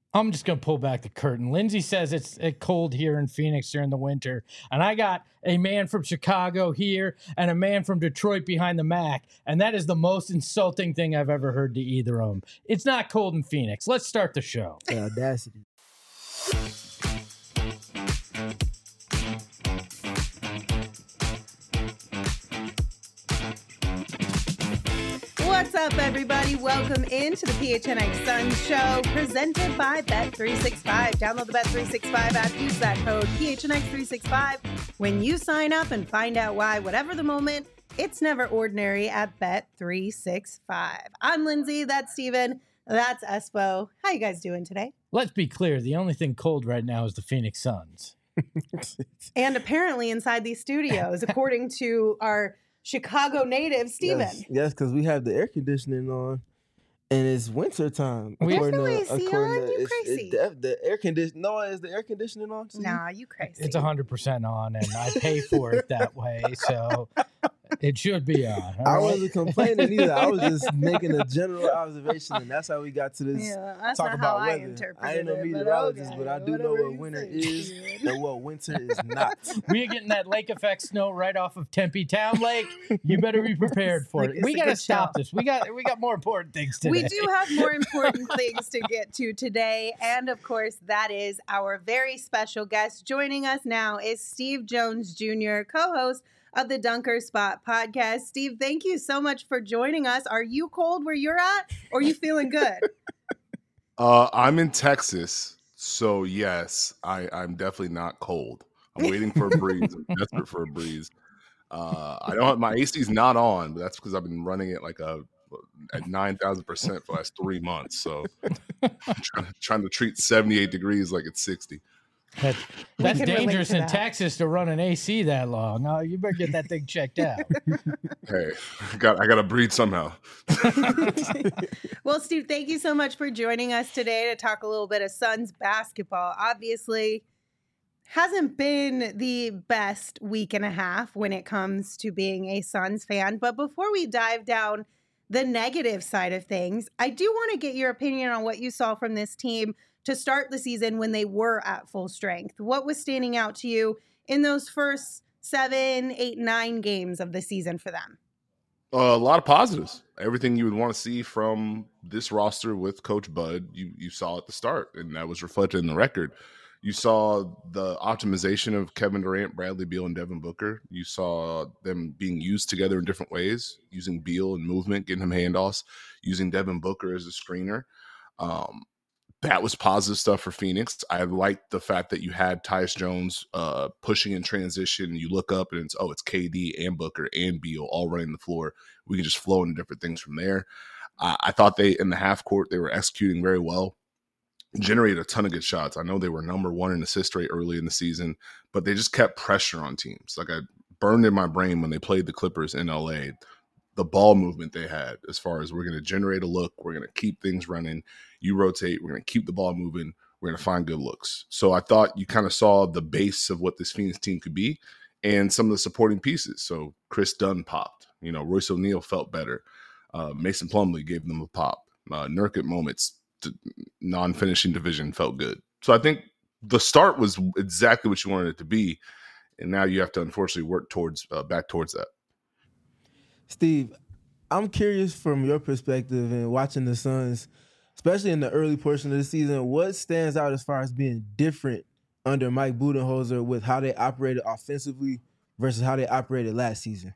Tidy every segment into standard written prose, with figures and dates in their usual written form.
I'm just going to pull back the curtain. Lindsay says it's cold here in Phoenix during the winter. And I got a man from Chicago here and a man from Detroit behind the Mac. And that is the most insulting thing I've ever heard to either of them. It's not cold in Phoenix. Let's start the show. The audacity. What's up, everybody? Welcome into the PHNX Suns show presented by Bet365. Download the Bet365 app. Use that code PHNX365 when you sign up and find out why, whatever the moment, it's never ordinary at Bet365. I'm Lindsay. That's Steven. That's Espo. How you guys doing today? Let's be clear. The only thing cold right now is the Phoenix Suns. And apparently inside these studios, according to our Chicago native, Steven. Yes, because we have the air conditioning on, and it's winter time. There's no AC on? You crazy. The air conditioning. No, is the air conditioning on? Nah, you crazy. It's 100% on, and I pay for it that way, so it should be on. I wasn't complaining either. I was just making a general observation, and that's how we got to this. Yeah, that's talk not about how weather. I interpreted I ain't no it, meteorologist, okay, but I do know whatever what you winter say, is Steven. and what winter is not. We are getting that lake effect snow right off of Tempe Town Lake. You better be prepared for it. It's We a got to good stop show. this. We got more important things today. We do have more important things to get to today. And of course, that is our very special guest. Joining us now is Steve Jones Jr., co-host of the Dunker Spot podcast. Steve, thank you so much for joining us. Are you cold where you're at, or are you feeling good? I'm in Texas, so yes, I'm definitely not cold. I'm waiting for a breeze. I'm desperate for a breeze. I don't. My AC's not on, but that's because I've been running it like at 9,000% for the last 3 months. So I'm trying to treat 78 degrees like it's 60. That's can relate dangerous to in that. Texas to run an AC that long. No, you better get that thing checked out. Hey, I got to breathe somehow. Well, Steve, thank you so much for joining us today to talk a little bit of Suns basketball. Obviously, hasn't been the best week and a half when it comes to being a Suns fan. But before we dive down the negative side of things, I do want to get your opinion on what you saw from this team to start the season when they were at full strength. What was standing out to you in those first 7, 8, 9 games of the season for them? A lot of positives. Everything you would want to see from this roster with Coach Bud, you saw at the start, and that was reflected in the record. You saw the optimization of Kevin Durant, Bradley Beal, and Devin Booker. You saw them being used together in different ways, using Beal in movement, getting him handoffs, using Devin Booker as a screener. That was positive stuff for Phoenix. I liked the fact that you had Tyus Jones pushing in transition. You look up and it's KD and Booker and Beal all running the floor. We can just flow into different things from there. I thought in the half court, they were executing very well. Generated a ton of good shots. I know they were number 1 in assist rate early in the season, but they just kept pressure on teams. Like I burned in my brain when they played the Clippers in LA, the ball movement they had as far as we're going to generate a look, we're going to keep things running, you rotate, we're going to keep the ball moving, we're going to find good looks. So I thought you kind of saw the base of what this Phoenix team could be and some of the supporting pieces. So Chris Dunn popped, Royce O'Neal felt better. Mason Plumlee gave them a pop. Nurk at moments, non-finishing division felt good. So I think the start was exactly what you wanted it to be. And now you have to unfortunately work back towards that. Steve, I'm curious from your perspective and watching the Suns, especially in the early portion of the season, what stands out as far as being different under Mike Budenholzer with how they operated offensively versus how they operated last season?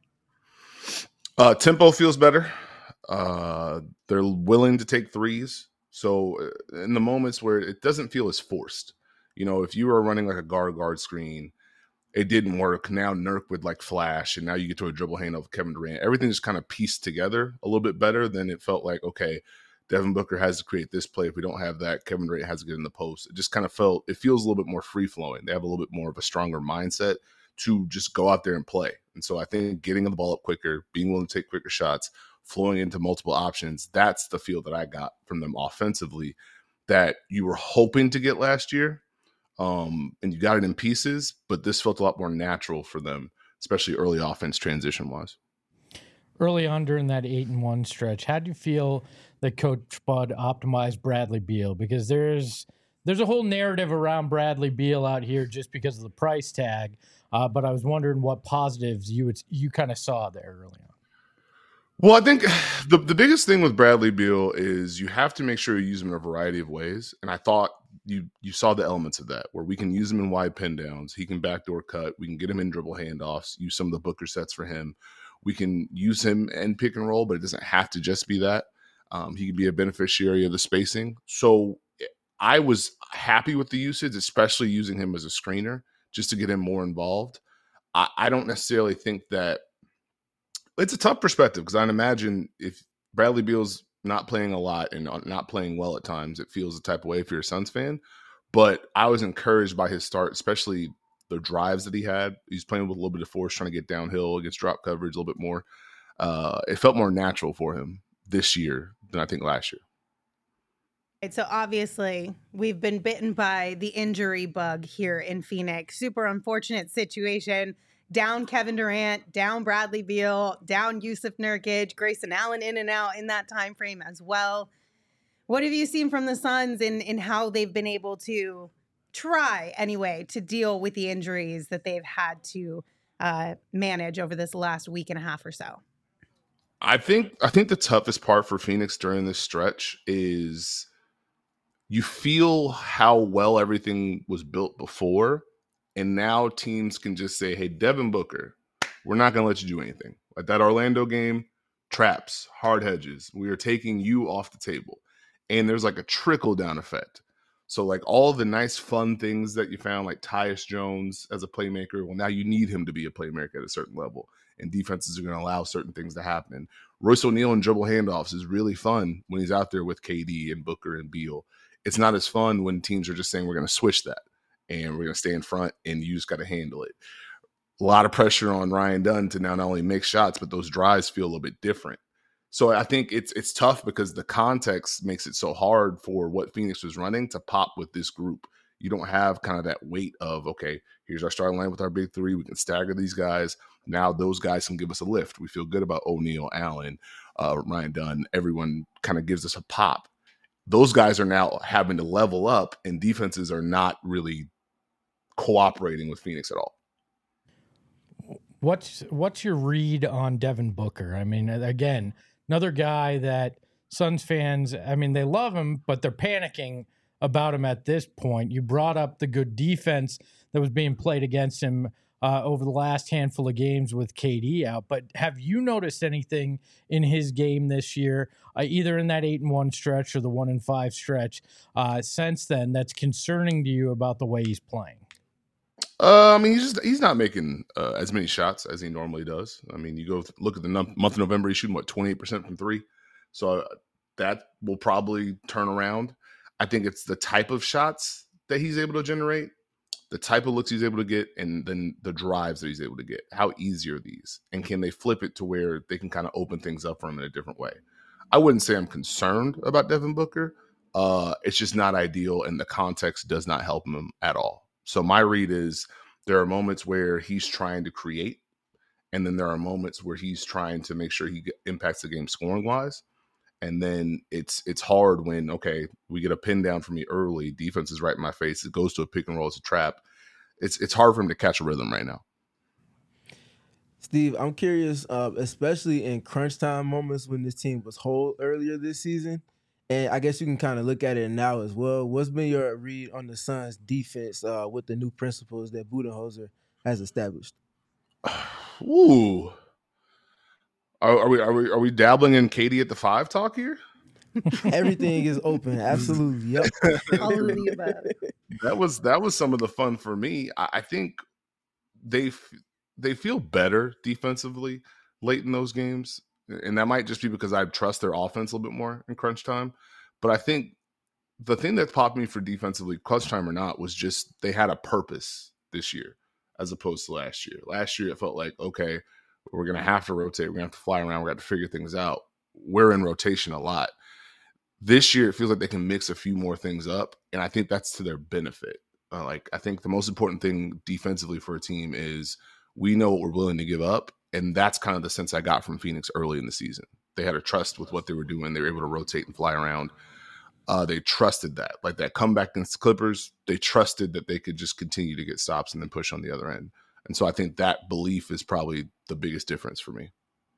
Tempo feels better. They're willing to take threes. So in the moments where it doesn't feel as forced, if you were running like a guard screen, it didn't work. Now Nurk would like flash, and now you get to a dribble handoff of Kevin Durant. Everything just kind of pieced together a little bit better than it felt like, okay, Devin Booker has to create this play. If we don't have that, Kevin Durant has to get in the post. It just kind of it feels a little bit more free-flowing. They have a little bit more of a stronger mindset to just go out there and play. And so I think getting the ball up quicker, being willing to take quicker shots, flowing into multiple options, that's the feel that I got from them offensively that you were hoping to get last year. And you got it in pieces, but this felt a lot more natural for them, especially early offense transition-wise. Early on during that 8-1 stretch, how do you feel that Coach Bud optimized Bradley Beal? Because there's there's a whole narrative around Bradley Beal out here just because of the price tag. But I was wondering what positives you kind of saw there early on. Well, I think the biggest thing with Bradley Beal is you have to make sure you use him in a variety of ways. And I thought you saw the elements of that, where we can use him in wide pin downs. He can backdoor cut. We can get him in dribble handoffs, use some of the Booker sets for him. We can use him in pick and roll, but it doesn't have to just be that. He could be a beneficiary of the spacing. So I was happy with the usage, especially using him as a screener, just to get him more involved. I don't necessarily think that it's a tough perspective, because I'd imagine if Bradley Beal's not playing a lot and not playing well at times, it feels the type of way if you're a Suns fan. But I was encouraged by his start, especially the drives that he had. He's playing with a little bit of force, trying to get downhill against drop coverage a little bit more. It felt more natural for him this year than I think last year. Right, so obviously we've been bitten by the injury bug here in Phoenix. Super unfortunate situation. Down Kevin Durant, down Bradley Beal, down Yusuf Nurkic, Grayson Allen in and out in that time frame as well. What have you seen from the Suns in how they've been able to try anyway to deal with the injuries that they've had to manage over this last week and a half or so? I think the toughest part for Phoenix during this stretch is you feel how well everything was built before. And now teams can just say, hey, Devin Booker, we're not going to let you do anything. Like that Orlando game, traps, hard hedges. We are taking you off the table. And there's like a trickle-down effect. So like all the nice, fun things that you found, like Tyus Jones as a playmaker, well, now you need him to be a playmaker at a certain level. And defenses are going to allow certain things to happen. Royce O'Neal and dribble handoffs is really fun when he's out there with KD and Booker and Beal. It's not as fun when teams are just saying we're going to switch that. And we're going to stay in front, and you just got to handle it. A lot of pressure on Ryan Dunn to now not only make shots, but those drives feel a little bit different. So I think it's tough because the context makes it so hard for what Phoenix was running to pop with this group. You don't have kind of that weight of, okay, here's our starting line with our big three. We can stagger these guys. Now those guys can give us a lift. We feel good about O'Neal, Allen, Ryan Dunn. Everyone kind of gives us a pop. Those guys are now having to level up, and defenses are not really cooperating with Phoenix at all. What's your read on Devin Booker? I mean, again, another guy that Suns fans, I mean, they love him, but they're panicking about him at this point. You brought up the good defense that was being played against him over the last handful of games with KD out, but have you noticed anything in his game this year, either in that 8-1 stretch or the 1-5 stretch since then, that's concerning to you about the way he's playing? I mean, he's not making as many shots as he normally does. I mean, you go look at the month of November, he's shooting 28% from three, so that will probably turn around. I think it's the type of shots that he's able to generate, the type of looks he's able to get, and then the drives that he's able to get. How easy are these? And can they flip it to where they can kind of open things up for him in a different way? I wouldn't say I'm concerned about Devin Booker. It's just not ideal, and the context does not help him at all. So my read is there are moments where he's trying to create, and then there are moments where he's trying to make sure he impacts the game scoring-wise. And then it's hard when, okay, we get a pin down for me early, defense is right in my face, it goes to a pick and roll, it's a trap. It's hard for him to catch a rhythm right now. Steve, I'm curious, especially in crunch time moments when this team was whole earlier this season, and I guess you can kind of look at it now as well. What's been your read on the Suns' defense with the new principles that Budenholzer has established? Ooh. Are we dabbling in KD at the 5 talk here? Everything is open. Absolutely. Yep. All of the above. That was some of the fun for me. I think they feel better defensively late in those games. And that might just be because I trust their offense a little bit more in crunch time. But I think the thing that popped me for defensively, crunch time or not, was just they had a purpose this year as opposed to last year. Last year, it felt like, okay, we're going to have to rotate. We're going to have to fly around. We're going to have to figure things out. We're in rotation a lot. This year, it feels like they can mix a few more things up, and I think that's to their benefit. I think the most important thing defensively for a team is we know what we're willing to give up, and that's kind of the sense I got from Phoenix early in the season. They had a trust with what they were doing. They were able to rotate and fly around. They trusted that, like that comeback against the Clippers. They trusted that they could just continue to get stops and then push on the other end. And so I think that belief is probably the biggest difference for me.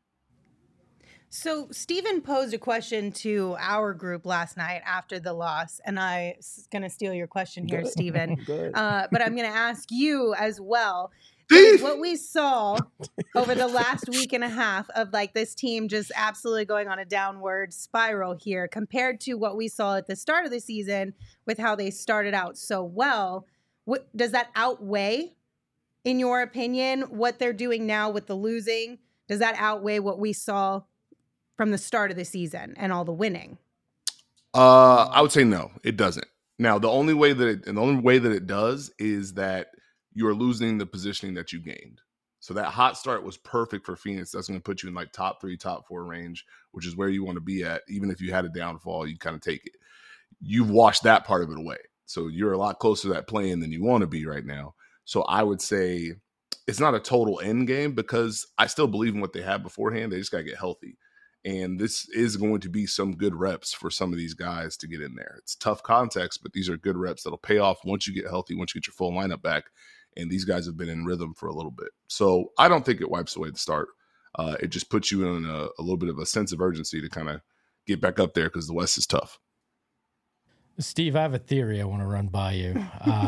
So Steven posed a question to our group last night after the loss, and I'm going to steal your question here, Steven. But I'm going to ask you as well. What we saw over the last week and a half of like this team just absolutely going on a downward spiral here compared to what we saw at the start of the season with how they started out so well. What does that outweigh, in your opinion, what they're doing now with the losing? Does that outweigh what we saw from the start of the season and all the winning? I would say no, it doesn't. Now, the only way that it does is that you are losing the positioning that you gained. So that hot start was perfect for Phoenix. That's going to put you in like top 3, top 4 range, which is where you want to be at. Even if you had a downfall, you kind of take it. You've washed that part of it away. So you're a lot closer to that play-in than you want to be right now. So I would say it's not a total end game because I still believe in what they had beforehand. They just got to get healthy. And this is going to be some good reps for some of these guys to get in there. It's tough context, but these are good reps that'll pay off once you get healthy, once you get your full lineup back. And these guys have been in rhythm for a little bit. So I don't think it wipes away the start. It just puts you in a little bit of a sense of urgency to kind of get back up there because the West is tough. Steve, I have a theory I want to run by you.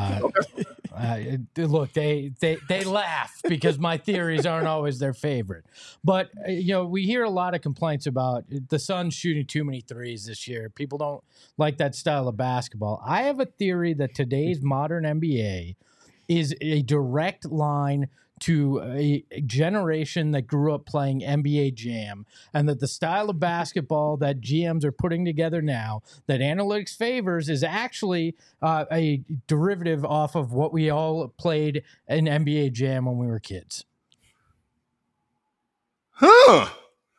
Look, they laugh because my theories aren't always their favorite. But, we hear a lot of complaints about the Suns shooting too many threes this year. People don't like that style of basketball. I have a theory that today's modern NBA is a direct line to a generation that grew up playing NBA Jam, and that the style of basketball that GMs are putting together now that analytics favors is actually a derivative off of what we all played in NBA Jam when we were kids. Huh.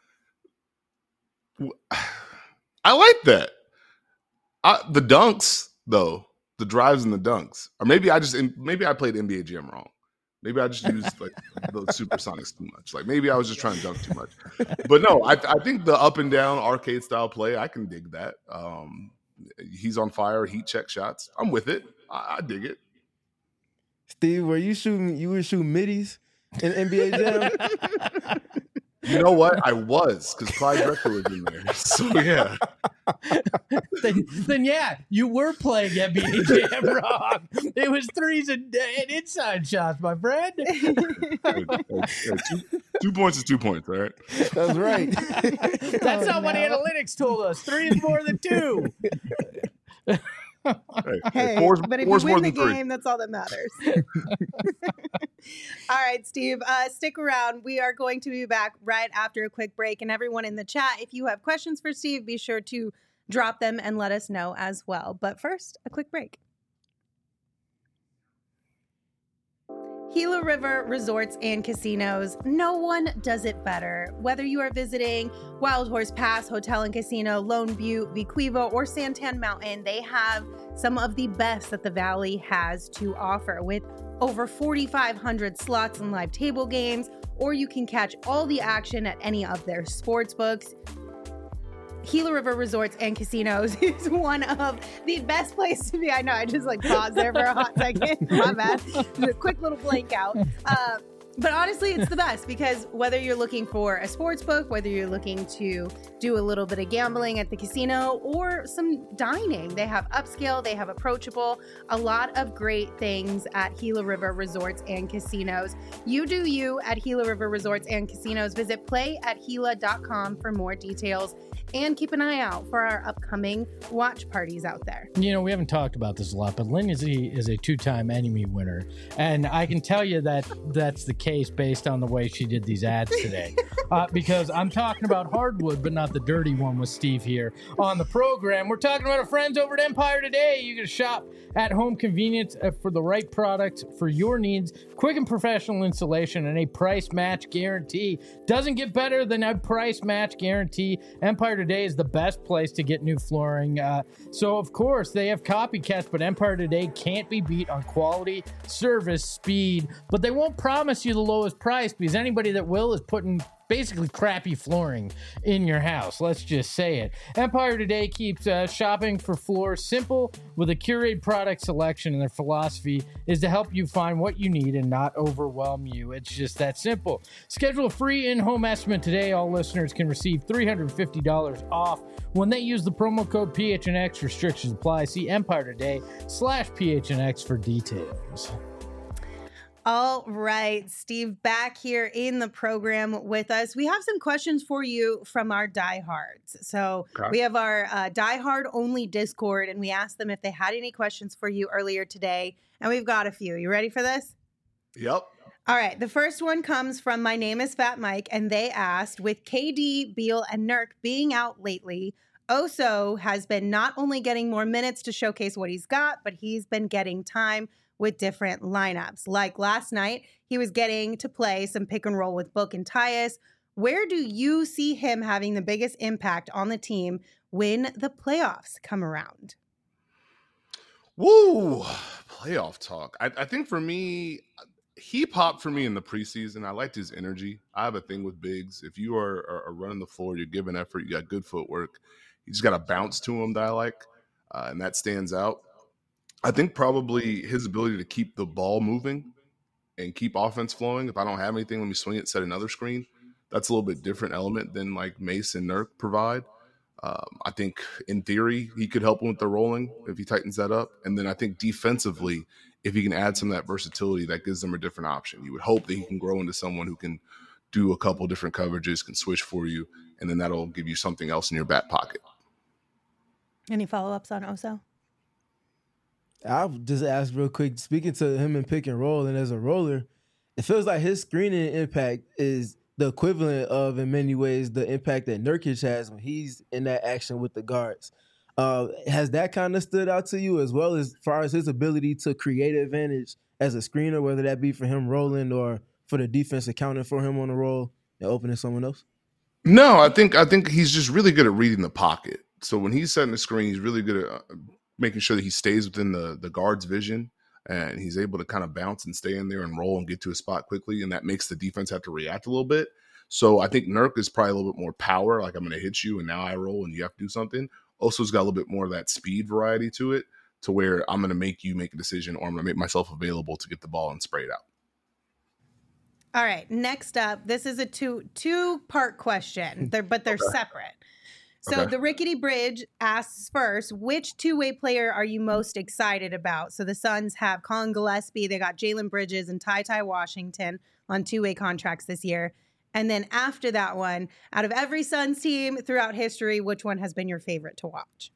I like that. The dunks, though. The drives and the dunks. Or maybe I played NBA Jam wrong. Maybe I just used like the supersonics too much. Like maybe I was just trying to dunk too much. But no, I think the up and down arcade style play, I can dig that. He's on fire, heat check shots. I'm with it. I dig it. Steve, you were shooting middies in NBA Jam? You know what? I was, because Clyde Drexler was in there. So yeah. then yeah, you were playing NBA Jam wrong. It was threes and inside shots, my friend. 2 points is 2 points, all right? That's right. That's not what analytics told us. 3 is more than 2. But if you win the game, that's all that matters. All right, Steve, stick around. We are going to be back right after a quick break. And everyone in the chat, if you have questions for Steve, be sure to drop them and let us know as well. But first, a quick break. Gila River Resorts and Casinos. No one does it better. Whether you are visiting Wild Horse Pass Hotel and Casino, Lone Butte, Vequiva, or Santan Mountain, they have some of the best that the Valley has to offer with over 4,500 slots and live table games, or you can catch all the action at any of their sports books. Gila River Resorts and Casinos is one of the best places to be. I know, I just paused there for a hot second. My bad. Just a quick little blank out. But honestly, it's the best because whether you're looking for a sports book, whether you're looking to do a little bit of gambling at the casino or some dining, they have upscale, they have approachable, a lot of great things at Gila River Resorts and Casinos. You do you at Gila River Resorts and Casinos. Visit playatgila.com for more details and keep an eye out for our upcoming watch parties out there. We haven't talked about this a lot, but Lindsay is a 2-time Emmy winner. And I can tell you that that's the case based on the way she did these ads today. Because I'm talking about hardwood, but not the dirty one with Steve here on the program. We're talking about our friends over at Empire Today. You can shop at home convenience for the right product for your needs. Quick and professional installation and a price match guarantee. Doesn't get better than a price match guarantee. Empire Today is the best place to get new flooring. So, of course, they have copycats, but Empire Today can't be beat on quality, service, speed, but they won't promise you you the lowest price, because anybody that will is putting basically crappy flooring in your house. Let's just say it. Empire Today keeps shopping for floors simple with a curated product selection, and their philosophy is to help you find what you need and not overwhelm you. It's just that simple. Schedule a free in-home estimate today. All listeners can receive $350 off when they use the promo code PHNX. Restrictions apply. See Empire Today/PHNX for details. All right, Steve, back here in the program with us. We have some questions for you from our diehards. So we have our diehard only Discord, and we asked them if they had any questions for you earlier today. And we've got a few. You ready for this? Yep. All right. The first one comes from My Name is Fat Mike, and they asked, with KD, Beal, and Nurk being out lately, Oso has been not only getting more minutes to showcase what he's got, but he's been getting time with different lineups. Like last night, he was getting to play some pick and roll with Book and Tyus. Where do you see him having the biggest impact on the team when the playoffs come around? Woo! Playoff talk. I think for me, he popped for me in the preseason. I liked his energy. I have a thing with bigs. If you are running the floor, you're giving effort, you got good footwork. You just got a bounce to him that I like, and that stands out. I think probably his ability to keep the ball moving and keep offense flowing. If I don't have anything, let me swing it, set another screen. That's a little bit different element than like Mace and Nurk provide. I think in theory, he could help him with the rolling if he tightens that up. And then I think defensively, if he can add some of that versatility, that gives them a different option. You would hope that he can grow into someone who can do a couple different coverages, can switch for you, and then that'll give you something else in your back pocket. Any follow-ups on Oso? I'll just ask real quick, speaking to him in pick and roll and as a roller, it feels like his screening impact is the equivalent of, in many ways, the impact that Nurkic has when he's in that action with the guards. Has that kind of stood out to you as well as far as his ability to create advantage as a screener, whether that be for him rolling or for the defense accounting for him on the roll and opening someone else? No, I think he's just really good at reading the pocket. So when he's setting the screen, he's really good at making sure that he stays within the guard's vision, and he's able to kind of bounce and stay in there and roll and get to a spot quickly, and that makes the defense have to react a little bit. So I think Nurk is probably a little bit more power, like I'm going to hit you and now I roll and you have to do something. Oso's got a little bit more of that speed variety to it, to where I'm going to make you make a decision, or I'm going to make myself available to get the ball and spray it out. All right, next up, this is a two-part question, but they're separate. So the Rickety Bridge asks first, which two-way player are you most excited about? So the Suns have Colin Gillespie, they got Jalen Bridges and Ty Washington on two-way contracts this year. And then after that one, out of every Suns team throughout history, which one has been your favorite to watch?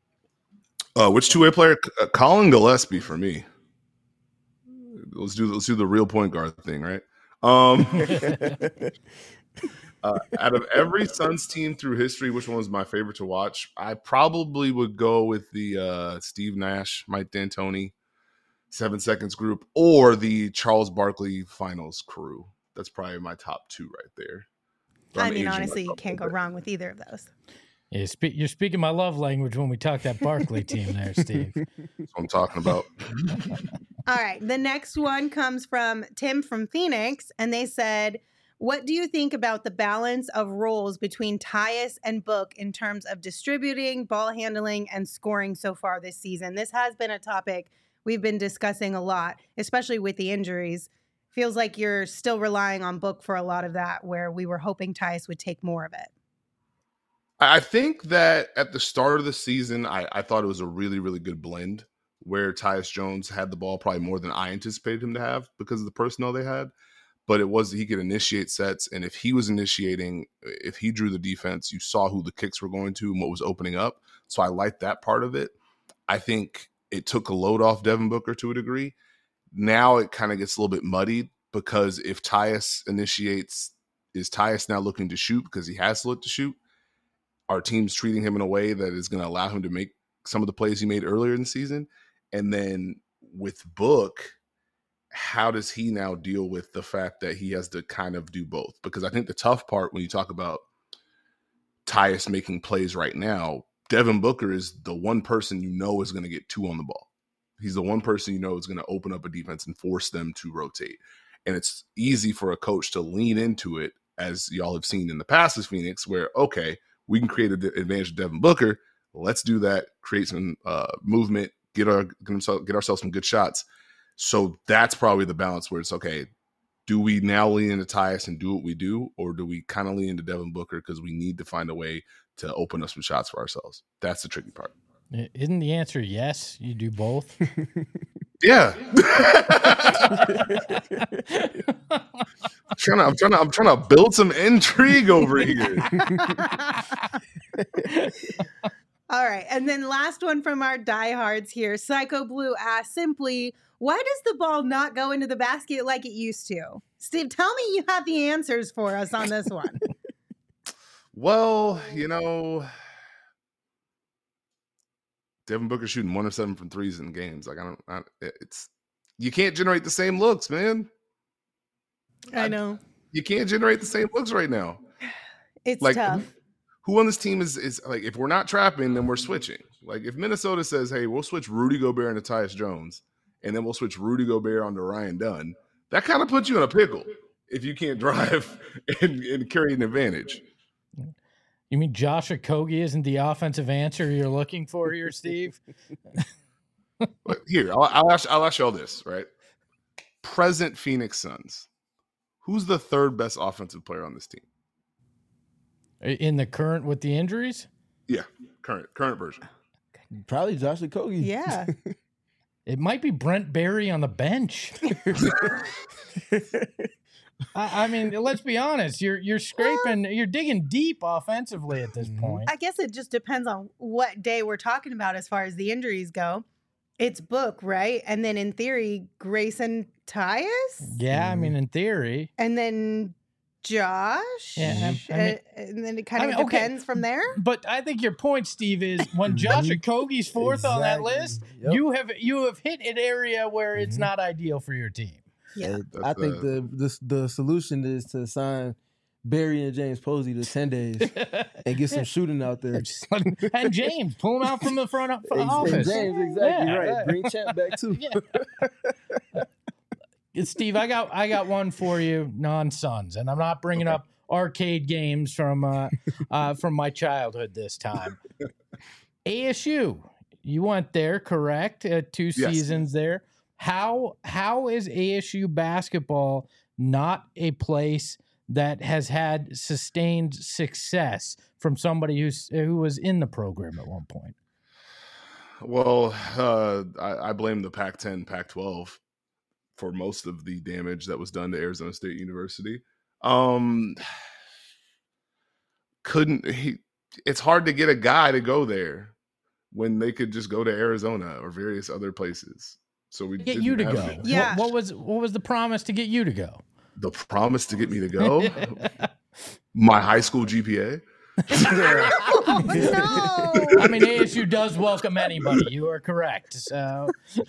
Which two-way player? Colin Gillespie for me. Let's do the real point guard thing, right? Out of every Suns team through history, which one was my favorite to watch? I probably would go with the Steve Nash, Mike D'Antoni, 7 Seconds group, or the Charles Barkley Finals crew. That's probably my top two right there. I mean, honestly, you can't go wrong with either of those. Yeah, you're speaking my love language when we talk that Barkley team there, Steve. That's what I'm talking about. All right. The next one comes from Tim from Phoenix, and they said, what do you think about the balance of roles between Tyus and Book in terms of distributing, ball handling, and scoring so far this season? This has been a topic we've been discussing a lot, especially with the injuries. Feels like you're still relying on Book for a lot of that, where we were hoping Tyus would take more of it. I think that at the start of the season, I thought it was a really, really good blend where Tyus Jones had the ball probably more than I anticipated him to have because of the personnel they had. But it was he could initiate sets, and if he was initiating, if he drew the defense, you saw who the kicks were going to and what was opening up. So I liked that part of it. I think it took a load off Devin Booker to a degree. Now it kind of gets a little bit muddied because if Tyus initiates, is Tyus now looking to shoot because he has to look to shoot? Our team's treating him in a way that is going to allow him to make some of the plays he made earlier in the season. And then with Book, how does he now deal with the fact that he has to kind of do both? Because I think the tough part when you talk about Tyus making plays right now, Devin Booker is the one person you know is going to get two on the ball. He's the one person you know is going to open up a defense and force them to rotate. And it's easy for a coach to lean into it, as y'all have seen in the past with Phoenix, where, okay, we can create an advantage of Devin Booker. Let's do that, create some movement, get ourselves some good shots. So that's probably the balance where it's, okay, do we now lean into Tyus and do what we do, or do we kind of lean into Devin Booker because we need to find a way to open up some shots for ourselves? That's the tricky part. Isn't the answer yes? You do both? Yeah. I'm trying to build some intrigue over here. All right. And then last one from our diehards here. Psycho Blue asks simply, why does the ball not go into the basket like it used to? Steve, tell me you have the answers for us on this one. Well, Devin Booker shooting 1 of 7 from threes in games. Like, you can't generate the same looks, man. I know. You can't generate the same looks right now. It's like, tough. Who on this team is like, if we're not trapping, then we're switching. Like, if Minnesota says, hey, we'll switch Rudy Gobert into Tyus Jones, and then we'll switch Rudy Gobert onto Ryan Dunn, that kind of puts you in a pickle if you can't drive and carry an advantage. You mean Josh Okogie isn't the offensive answer you're looking for here, Steve? Here, I'll ask you all this, right? Present Phoenix Suns. Who's the third best offensive player on this team? In the current with the injuries? Yeah, current version. Probably Josh Okogie. Yeah. It might be Brent Berry on the bench. I mean, let's be honest. You're scraping, you're digging deep offensively at this point. I guess it just depends on what day we're talking about as far as the injuries go. It's Book, right? And then in theory, Grayson Tyus? Yeah, I mean, in theory. And then Josh? Yeah, and then it kind of depends from there. But I think your point, Steve, is when Josh Okogie's fourth on that list, you have hit an area where it's not ideal for your team. Yeah, I think the solution is to sign Barry and James Posey to 10 days and get some shooting out there. And James, pull him out from the front office. And James, exactly right. Yeah. Bring Champ back too. Steve, I got one for you, non-Suns, and I'm not bringing up arcade games from my childhood this time. ASU, you went there, correct? 2 seasons there. How is ASU basketball not a place that has had sustained success from somebody who was in the program at one point? Well, I blame the Pac-10, Pac-12 for most of the damage that was done to Arizona State University. It's hard to get a guy to go there when they could just go to Arizona or various other places. So we get you to go. Yeah. What was the promise to get you to go? The promise to get me to go? My high school GPA. Oh, no. I mean, ASU does welcome anybody. You are correct. So,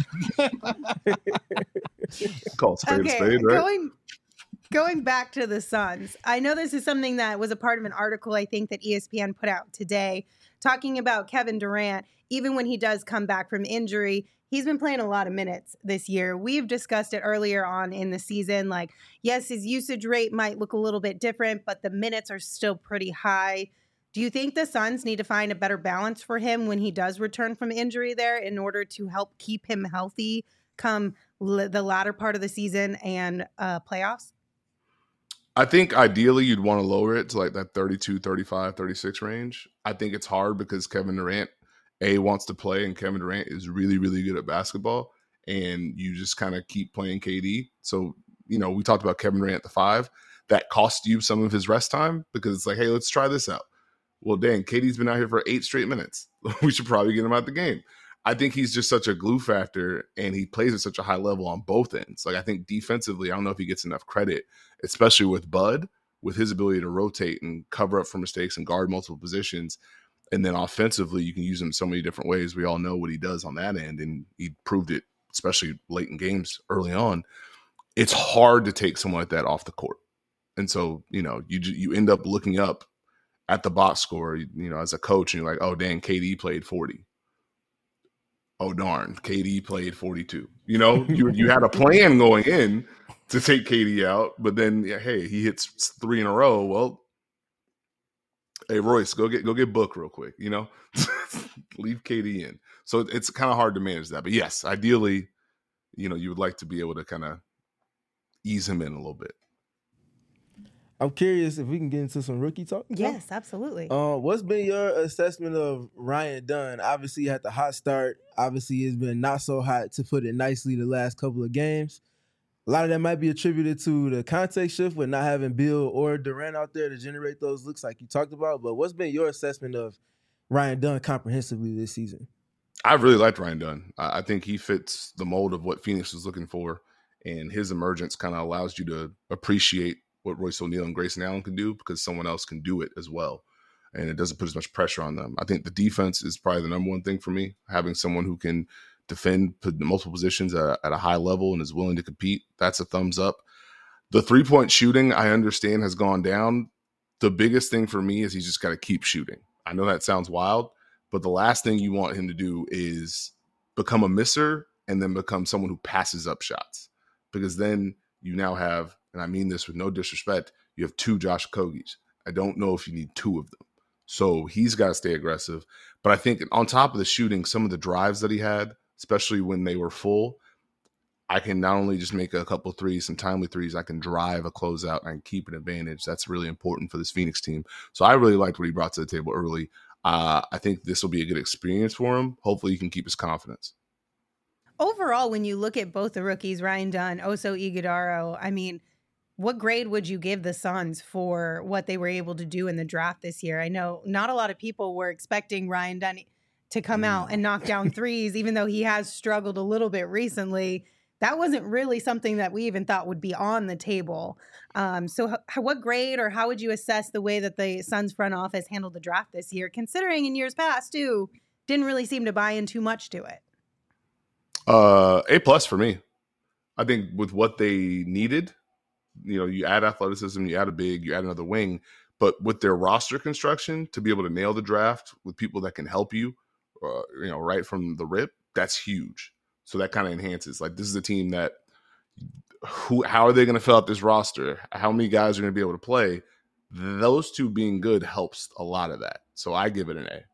call it spade a spade, right? Going back to the Suns, I know this is something that was a part of an article I think that ESPN put out today, talking about Kevin Durant. Even when he does come back from injury, he's been playing a lot of minutes this year. We've discussed it earlier on in the season. Like, yes, his usage rate might look a little bit different, but the minutes are still pretty high. Do you think the Suns need to find a better balance for him when he does return from injury there in order to help keep him healthy come the latter part of the season and playoffs? I think ideally you'd want to lower it to like that 32, 35, 36 range. I think it's hard because Kevin Durant, wants to play, and Kevin Durant is really, really good at basketball, and you just kind of keep playing KD. So, we talked about Kevin Durant at the 5. That cost you some of his rest time because it's like, hey, let's try this out. Well, dang, KD's been out here for 8 straight minutes. We should probably get him out the game. I think he's just such a glue factor, and he plays at such a high level on both ends. Like, I think defensively, I don't know if he gets enough credit, especially with Bud, with his ability to rotate and cover up for mistakes and guard multiple positions. And then offensively, you can use him so many different ways. We all know what he does on that end, and he proved it, especially late in games early on. It's hard to take someone like that off the court. And so, you end up looking up at the box score, as a coach, and you're like, oh, dang, KD played 40. oh darn, KD played 42. You know, you had a plan going in to take KD out, but then hey, he hits 3 in a row. Well, hey Royce, go get Book real quick. You know, leave KD in. So it's kind of hard to manage that. But yes, ideally, you know, you would like to be able to kind of ease him in a little bit. I'm curious if we can get into some rookie talk. Yes, absolutely. What's been your assessment of Ryan Dunn? Obviously, he had the hot start. Obviously, it's been not so hot, to put it nicely, the last couple of games. A lot of that might be attributed to the context shift with not having Bill or Durant out there to generate those looks like you talked about. But what's been your assessment of Ryan Dunn comprehensively this season? I really liked Ryan Dunn. I think he fits the mold of what Phoenix was looking for, and his emergence kind of allows you to appreciate what Royce O'Neal and Grayson Allen can do because someone else can do it as well. And it doesn't put as much pressure on them. I think the defense is probably the number one thing for me. Having someone who can defend multiple positions at a high level and is willing to compete, that's a thumbs up. The 3-point shooting, I understand, has gone down. The biggest thing for me is he's just got to keep shooting. I know that sounds wild, but the last thing you want him to do is become a misser and then become someone who passes up shots, because then you now have, and I mean this with no disrespect, you have 2 Josh Okogies. I don't know if you need 2 of them. So he's got to stay aggressive. But I think on top of the shooting, some of the drives that he had, especially when they were full, I can not only just make a couple threes, some timely threes, I can drive a closeout and keep an advantage. That's really important for this Phoenix team. So I really liked what he brought to the table early. I think this will be a good experience for him. Hopefully he can keep his confidence. Overall, when you look at both the rookies, Ryan Dunn, Oso Ighodaro, I mean, what grade would you give the Suns for what they were able to do in the draft this year? I know not a lot of people were expecting Ryan Dunn to come out and knock down threes, even though he has struggled a little bit recently. That wasn't really something that we even thought would be on the table. So what grade or how would you assess the way that the Suns front office handled the draft this year, considering in years past, too, didn't really seem to buy in too much to it? A+ for me. I think with what they needed, you know, you add athleticism, you add a big, you add another wing, but with their roster construction to be able to nail the draft with people that can help you, you know, right from the rip, that's huge. So that kind of enhances. Like, this is a team that, how are they going to fill out this roster? How many guys are going to be able to play? Those 2 being good helps a lot of that. So I give it an A+.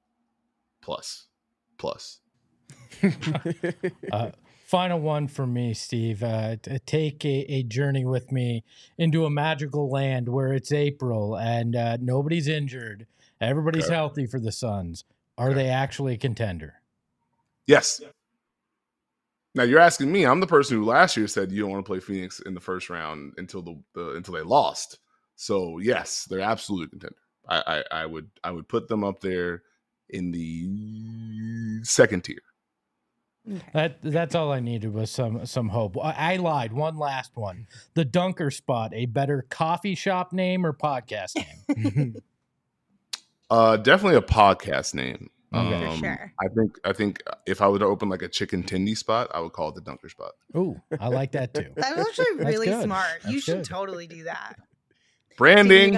Final one for me, Steve. Take a journey with me into a magical land where it's April and nobody's injured. Everybody's healthy for the Suns. Are they actually a contender? Yes. Now you're asking me. I'm the person who last year said you don't want to play Phoenix in the first round until until they lost. So yes, they're absolutely a contender. I would put them up there in the second tier. Okay. That's all I needed was some hope. I lied. One last one. The Dunker Spot, a better coffee shop name or podcast name? Definitely a podcast name. For sure. I think if I were to open like a chicken tendy spot, I would call it the Dunker Spot. Ooh, I like that too. That's actually really good. smart. That's you should good. totally do that. Branding.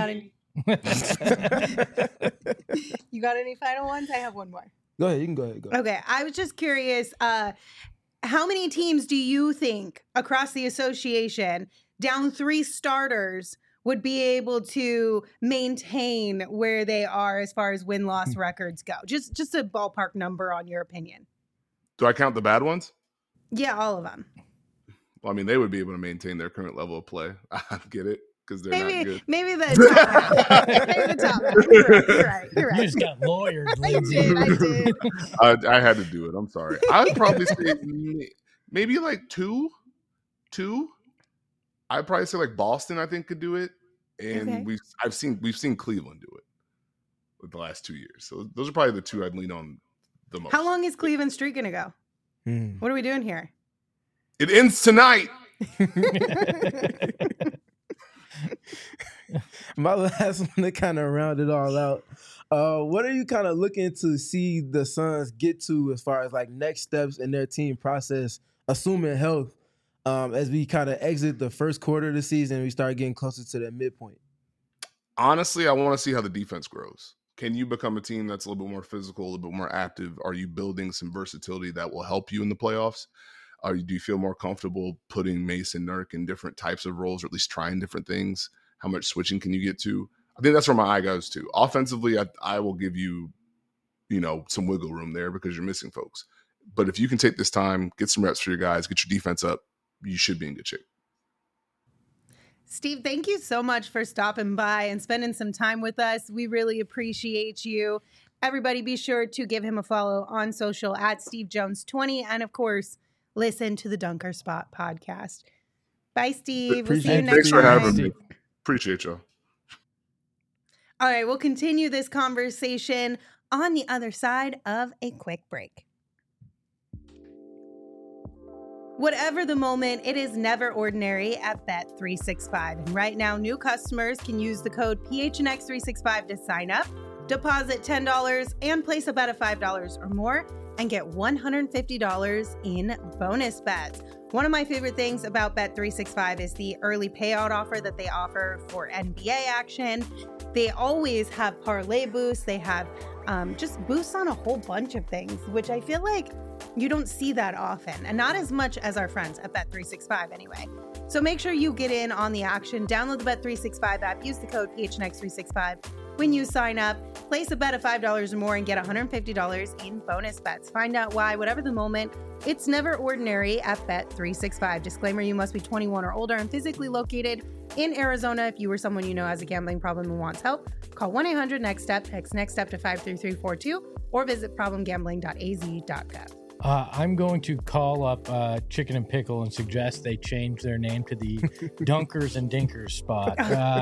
You got any final ones? I have one more. Go ahead. You can go ahead. Go. Okay. I was just curious, how many teams do you think across the association, down 3 starters, would be able to maintain where they are as far as win-loss records go? Just a ballpark number on your opinion. Do I count the bad ones? Yeah, all of them. Well, I mean, they would be able to maintain their current level of play. I get it, because they're not good. Maybe the top half. Maybe the top half. You're right. You just got lawyered, I Lindsay. did. I had to do it. I'm sorry. I'd probably say maybe like two. I'd probably say like Boston, I think, could do it. And Okay. we've seen Cleveland do it with the last 2 years. So those are probably the 2 I'd lean on the most. How long is Cleveland's streak going to go? What are we doing here? It ends tonight. My last one to kind of round it all out. What are you kind of looking to see the Suns get to as far as like next steps in their team process, assuming health, as we kind of exit the first quarter of the season and we start getting closer to that midpoint? Honestly, I want to see how the defense grows, Can you become a team that's a little bit more physical, a little bit more active? Are you building some versatility that will help you in the playoffs? Do you feel more comfortable putting Mason Nurk in different types of roles, or at least trying different things? How much switching can you get to? I think that's where my eye goes to. Offensively, I will give you, some wiggle room there because you're missing folks. But if you can take this time, get some reps for your guys, get your defense up, you should be in good shape. Steve, thank you so much for stopping by and spending some time with us. We really appreciate you. Everybody be sure to give him a follow on social at Steve Jones 20. And of course, listen to the Dunker Spot podcast. Bye, Steve. We'll see you next time. Thanks for having me. Appreciate y'all. All right, we'll continue this conversation on the other side of a quick break. Whatever the moment, it is never ordinary at Bet365. And right now, new customers can use the code PHNX365 to sign up, deposit $10, and place a bet of $5 or more, and get $150 in bonus bets. One of my favorite things about Bet365 is the early payout offer that they offer for NBA action. They always have parlay boosts. They have just boosts on a whole bunch of things, which I feel like you don't see that often, and not as much as our friends at Bet365 anyway. So make sure you get in on the action. Download the Bet365 app. Use the code PHNX365 when you sign up. Place a bet of $5 or more and get $150 in bonus bets. Find out why, whatever the moment, it's never ordinary at Bet365. Disclaimer, you must be 21 or older and physically located in Arizona. If you or someone you know has a gambling problem and wants help, call 1-800-NEXT-STEP, text NEXT STEP to 53342, or visit problemgambling.az.gov. I'm going to call up Chicken and Pickle and suggest they change their name to the Dunkers and Dinkers spot.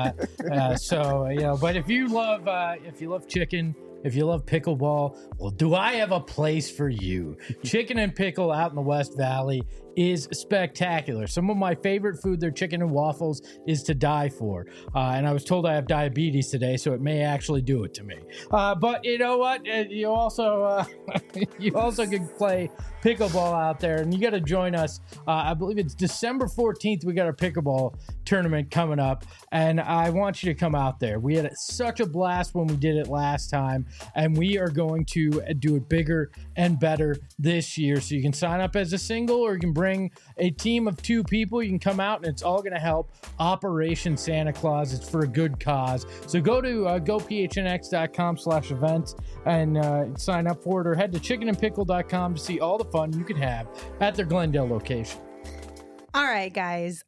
But if you love chicken, if you love pickleball, well, do I have a place for you? Chicken and Pickle out in the West Valley is spectacular. Some of my favorite food, their chicken and waffles, is to die for. And I was told I have diabetes today, so it may actually do it to me. But you know what? You also can play pickleball out there, and you got to join us. I believe it's December 14th. We got our pickleball tournament coming up, and I want you to come out there. We had such a blast when we did it last time, and we are going to do it bigger and better this year. So you can sign up as a single, or you can bring a team of 2 people. You can come out, and it's all going to help Operation Santa Claus. It's for a good cause. So go to gophnx.com/events and sign up for it, or head to chickenandpickle.com to see all the fun you could have at their Glendale location. All right, guys.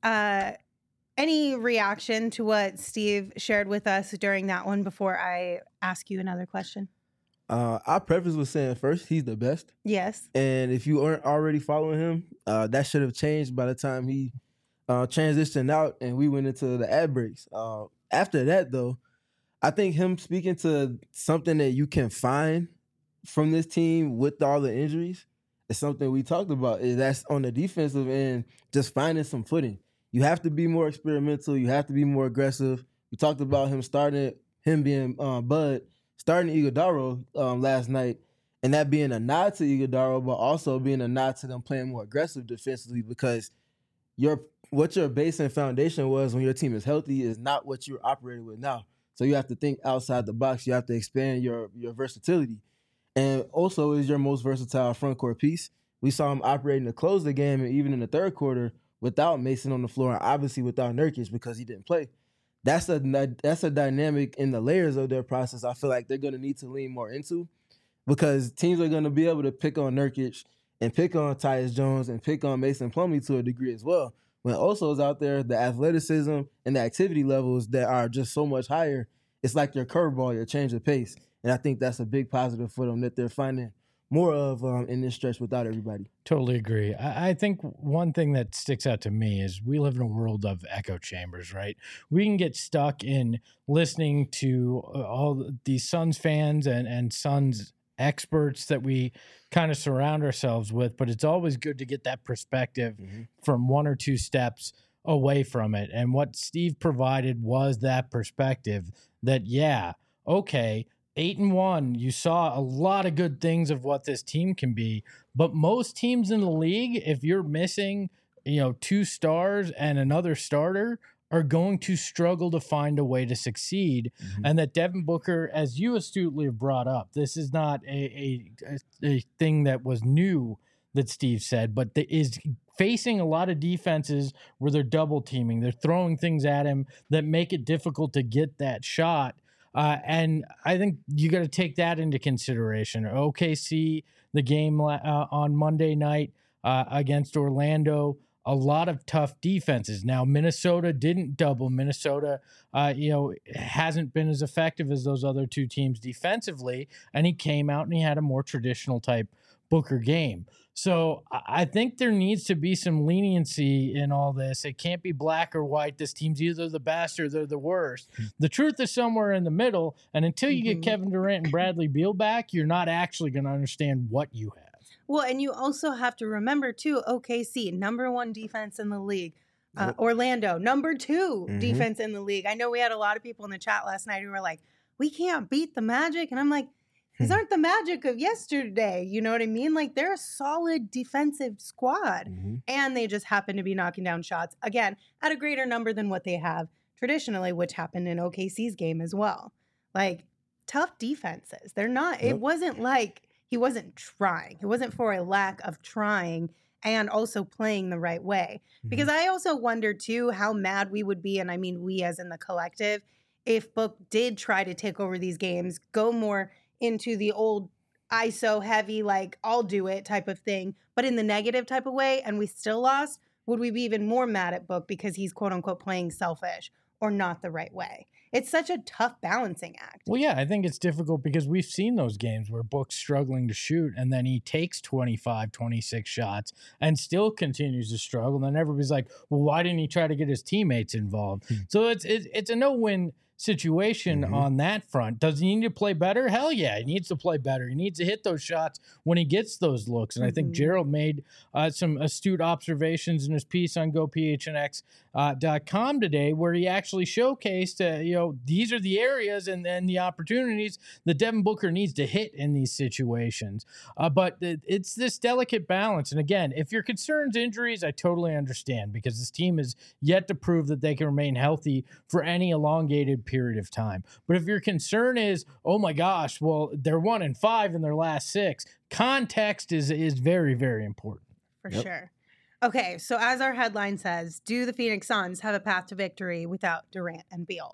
Any reaction to what Steve shared with us during that one before I ask you another question? I'll preface with saying first, he's the best. Yes. And if you aren't already following him, that should have changed by the time he transitioned out and we went into the ad breaks. After that, though, I think him speaking to something that you can find from this team with all the injuries is something we talked about. That's on the defensive end, just finding some footing. You have to be more experimental. You have to be more aggressive. We talked about him being Bud, starting Iguodaro last night, and that being a nod to Iguodaro, but also being a nod to them playing more aggressive defensively, because what your base and foundation was when your team is healthy is not what you're operating with now. So you have to think outside the box. You have to expand your versatility. And also is your most versatile front court piece. We saw him operating to close the game, and even in the third quarter, without Mason on the floor, and obviously without Nurkic because he didn't play. That's a dynamic in the layers of their process I feel like they're going to need to lean more into, because teams are going to be able to pick on Nurkic and pick on Tyus Jones and pick on Mason Plumlee to a degree as well. When Oso's out there, the athleticism and the activity levels that are just so much higher, it's like your curveball, your change of pace. And I think that's a big positive for them that they're finding more of in this stretch without everybody. Totally agree. I think one thing that sticks out to me is we live in a world of echo chambers, right? We can get stuck in listening to all these Suns fans and Suns experts that we kind of surround ourselves with, but it's always good to get that perspective from 1 or 2 steps away from it. And what Steve provided was that perspective that, 8-1, you saw a lot of good things of what this team can be, but most teams in the league, if you're missing, 2 stars and another starter, are going to struggle to find a way to succeed, and that Devin Booker, as you astutely have brought up, this is not a thing that was new that Steve said, but is facing a lot of defenses where they're double teaming, they're throwing things at him that make it difficult to get that shot. And I think you got to take that into consideration. OKC, the game on Monday night against Orlando, a lot of tough defenses. Now, Minnesota didn't double. Minnesota, hasn't been as effective as those other two teams defensively, and he came out and he had a more traditional type Booker game. So I think there needs to be some leniency in all this. It can't be black or white. This team's either the best or they're the worst. The truth is somewhere in the middle, and until you get Kevin Durant and Bradley Beal back, you're not actually going to understand what you have. Well, and you also have to remember, too, OKC, number 1 defense in the league. Orlando, number 2 defense in the league. I know we had a lot of people in the chat last night who were like, we can't beat the Magic. And I'm like, these aren't the Magic of yesterday. You know what I mean? Like, they're a solid defensive squad. And they just happen to be knocking down shots, again, at a greater number than what they have traditionally, which happened in OKC's game as well. Like, tough defenses. They're not, it wasn't like he wasn't trying. It wasn't for a lack of trying and also playing the right way. Because I also wonder, too, how mad we would be, and I mean we as in the collective, if Book did try to take over these games, go more into the old ISO heavy, like, I'll do it type of thing, but in the negative type of way, and we still lost, would we be even more mad at Book because he's quote-unquote playing selfish or not the right way? It's such a tough balancing act. Well, yeah, I think it's difficult because we've seen those games where Book's struggling to shoot and then he takes 25, 26 shots and still continues to struggle. And then everybody's like, well, why didn't he try to get his teammates involved? So it's a no-win situation on that front. Does he need to play better? Hell yeah, he needs to play better. He needs to hit those shots when he gets those looks. And I think Gerald made some astute observations in his piece on GoPHNX.com today, where he actually showcased, these are the areas and the opportunities that Devin Booker needs to hit in these situations. But it's this delicate balance. And again, if your concern's injuries, I totally understand, because this team is yet to prove that they can remain healthy for any elongated period of time. But if your concern is, oh my gosh, well, they're 1-5 in their last 6, context is very, very important. For sure. Okay, so as our headline says, do the Phoenix Suns have a path to victory without Durant and Beal?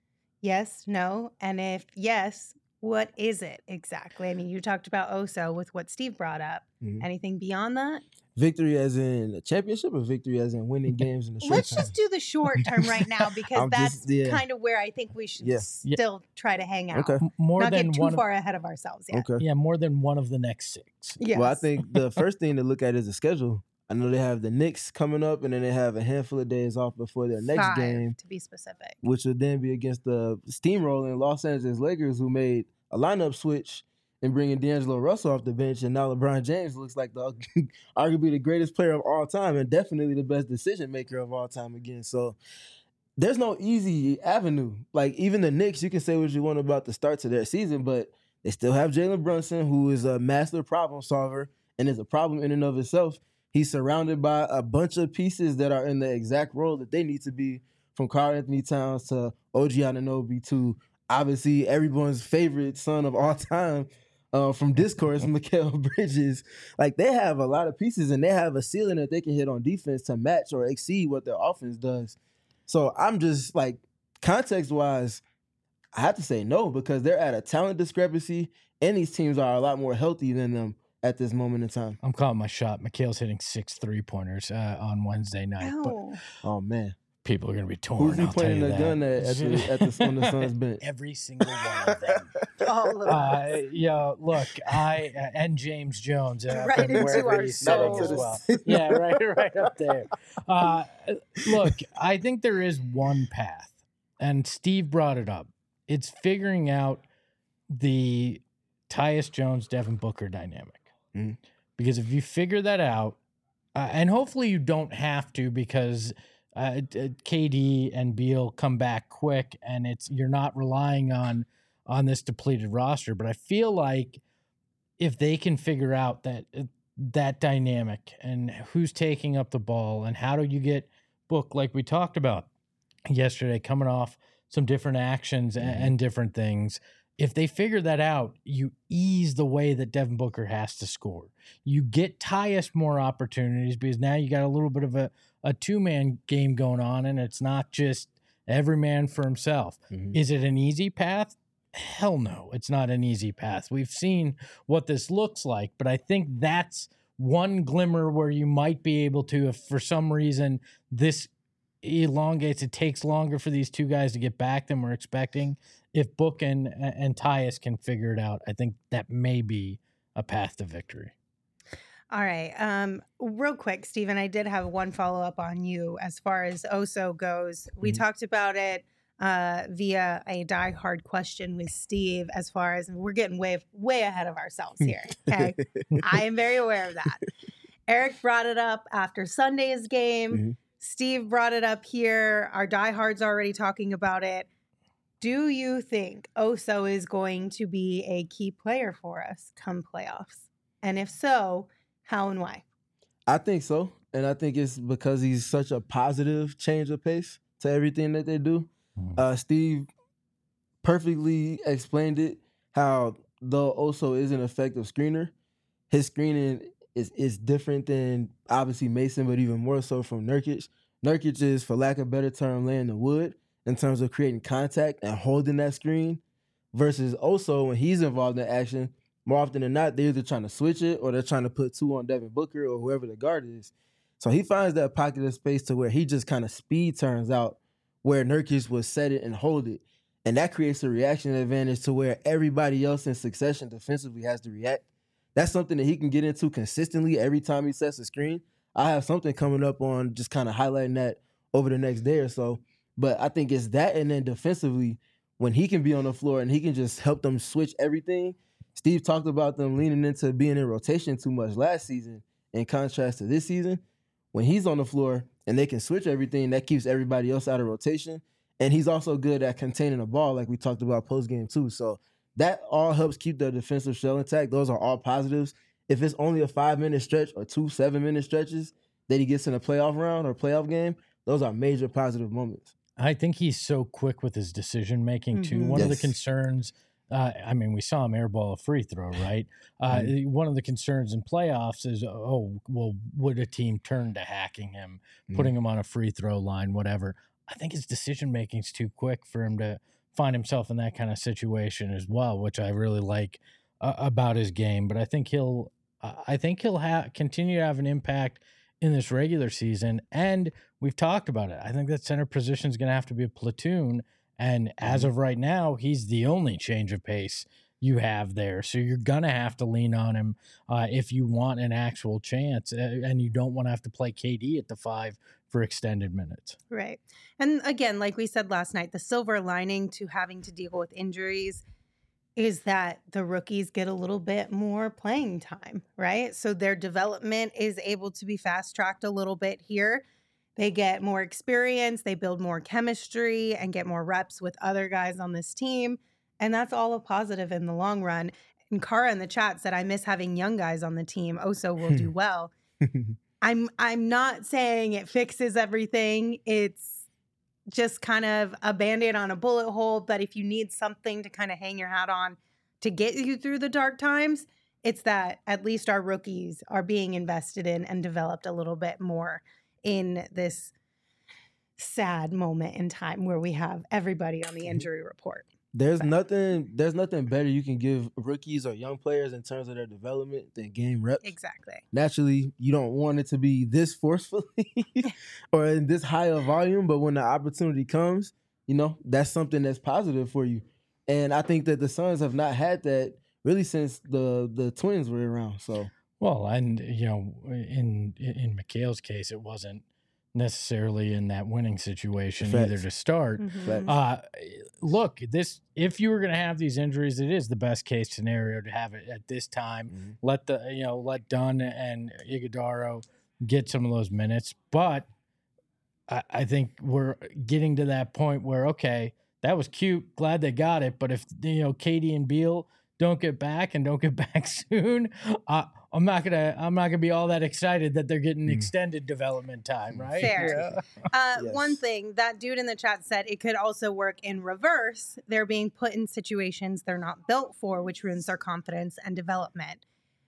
Yes, no, and if yes, what is it exactly? I mean, you talked about Oso with what Steve brought up. Anything beyond that? Victory as in a championship, or victory as in winning games in the short Let's term? just do the short term right now, because that's kind of where I think we should still try to hang out. Okay. More Not than get too one, far ahead of ourselves yet. Okay. yeah, more than one of the next 6. Yes. Well, I think the first thing to look at is the schedule. I know they have the Knicks coming up, and then they have a handful of days off before their next 5, game, to be specific. which would then be against the steamrolling Los Angeles Lakers, who made a lineup switch and bringing D'Angelo Russell off the bench, and now LeBron James looks like arguably the greatest player of all time and definitely the best decision maker of all time again. So there's no easy avenue. Like, even the Knicks, you can say what you want about the start to their season, but they still have Jalen Brunson, who is a master problem solver and is a problem in and of itself. He's surrounded by a bunch of pieces that are in the exact role that they need to be, from Karl Anthony Towns to OG Anunoby to obviously everyone's favorite son of all time, from Discourse, Mikal Bridges. Like, they have a lot of pieces, and they have a ceiling that they can hit on defense to match or exceed what their offense does. So I'm just like, context-wise, I have to say no, because they're at a talent discrepancy, and these teams are a lot more healthy than them at this moment in time. I'm calling my shot. Mikhail's hitting 6 3-pointers on Wednesday night. But Oh, man. people are going to be torn. Who's he I'll tell pointing you the that. on gun the Suns bench? Every single one of them. All of us. Look, and James Jones, Right from into wherever our he's sitting as souls. well. Yeah, right up there. Look, I think there is one path, and Steve brought it up. It's figuring out the Tyus Jones, Devin Booker dynamic. Because if you figure that out, and hopefully you don't have to, because KD and Beal come back quick, and you're not relying on this depleted roster. But I feel like if they can figure out that dynamic and who's taking up the ball and how do you get Book, like we talked about, yesterday, coming off some different actions and different things. If they figure that out, you ease the way that Devin Booker has to score. You get Tyus more opportunities because now you got a little bit of a two-man game going on, and it's not just every man for himself. Is it an easy path? Hell no, it's not an easy path. We've seen what this looks like, but I think that's one glimmer where you might be able to, if for some reason this elongates, it takes longer for these two guys to get back than we're expecting. If Book and Tyus can figure it out, I think that may be a path to victory. All right. Real quick, Stephen, I did have one follow-up on you as far as Oso goes. We talked about it via a diehard question with Steve as far as we're getting way ahead of ourselves here. Okay. I am very aware of that. Eric brought it up after Sunday's game. Steve brought it up here. Our diehards already talking about it. Do you think Oso is going to be a key player for us come playoffs? And if so, how and why? I think so. And I think it's because he's such a positive change of pace to everything that they do. Steve perfectly explained it, how though Oso is an effective screener, his screening is different than obviously Mason, but even more so from Nurkic. Nurkic is, for lack of a better term, laying the wood in terms of creating contact and holding that screen, versus Oso, when he's involved in action, more often than not, they're either trying to switch it or they're trying to put two on Devin Booker or whoever the guard is. So he finds that pocket of space to where he just kind of speed turns out where Nurkic would set it and hold it. And that creates a reaction advantage to where everybody else in succession defensively has to react. That's something that he can get into consistently every time he sets a screen. I have something coming up on just kind of highlighting that over the next day or so. But I think it's that, and then defensively, when he can be on the floor and he can just help them switch everything. Steve talked about them leaning into being in rotation too much last season in contrast to this season. When he's on the floor and they can switch everything, that keeps everybody else out of rotation. And he's also good at containing the ball, like we talked about post-game too. So that all helps keep their defensive shell intact. Those are all positives. If it's only a 5-minute stretch or 2 7-minute stretches that he gets in a playoff round or playoff game, those are major positive moments. I think he's so quick with his decision making too. One of the concerns, I mean, we saw him airball a free throw, right? One of the concerns in playoffs is, would a team turn to hacking him, putting him on a free throw line, whatever? I think his decision making is too quick for him to find himself in that kind of situation as well, which I really like about his game. But I think he'll continue to have an impact in this regular season. And we've talked about it. I think that center position is going to have to be a platoon. And as of right now, he's the only change of pace you have there. So you're going to have to lean on him if you want an actual chance. And you don't want to have to play KD at the 5 for extended minutes. Right. And again, like we said last night, the silver lining to having to deal with injuries is that the rookies get a little bit more playing time, right? So their development is able to be fast-tracked a little bit here. They get more experience, they build more chemistry, and get more reps with other guys on this team. And that's all a positive in the long run. And Kara in the chat said, I miss having young guys on the team. Oso will do well. I'm not saying it fixes everything. It's just kind of a Band-Aid on a bullet hole. But if you need something to kind of hang your hat on to get you through the dark times, it's that at least our rookies are being invested in and developed a little bit more in this sad moment in time where we have everybody on the injury report. There's nothing better you can give rookies or young players in terms of their development than game reps. Exactly. Naturally, you don't want it to be this forcefully or in this high of volume, but when the opportunity comes, that's something that's positive for you. And I think that the Suns have not had that really since the Twins were around. So well, and in Mikhail's case, it wasn't necessarily in that winning situation either to start. Look, if you were going to have these injuries, it is the best case scenario to have it at this time. Let Dunn and Iguodaro get some of those minutes, but I think we're getting to that point where, okay, that was cute, glad they got it, but if KD and Beal don't get back soon, I'm not gonna be all that excited that they're getting extended development time, right? Fair. Yes. One thing that dude in the chat said, it could also work in reverse. They're being put in situations they're not built for, which ruins their confidence and development.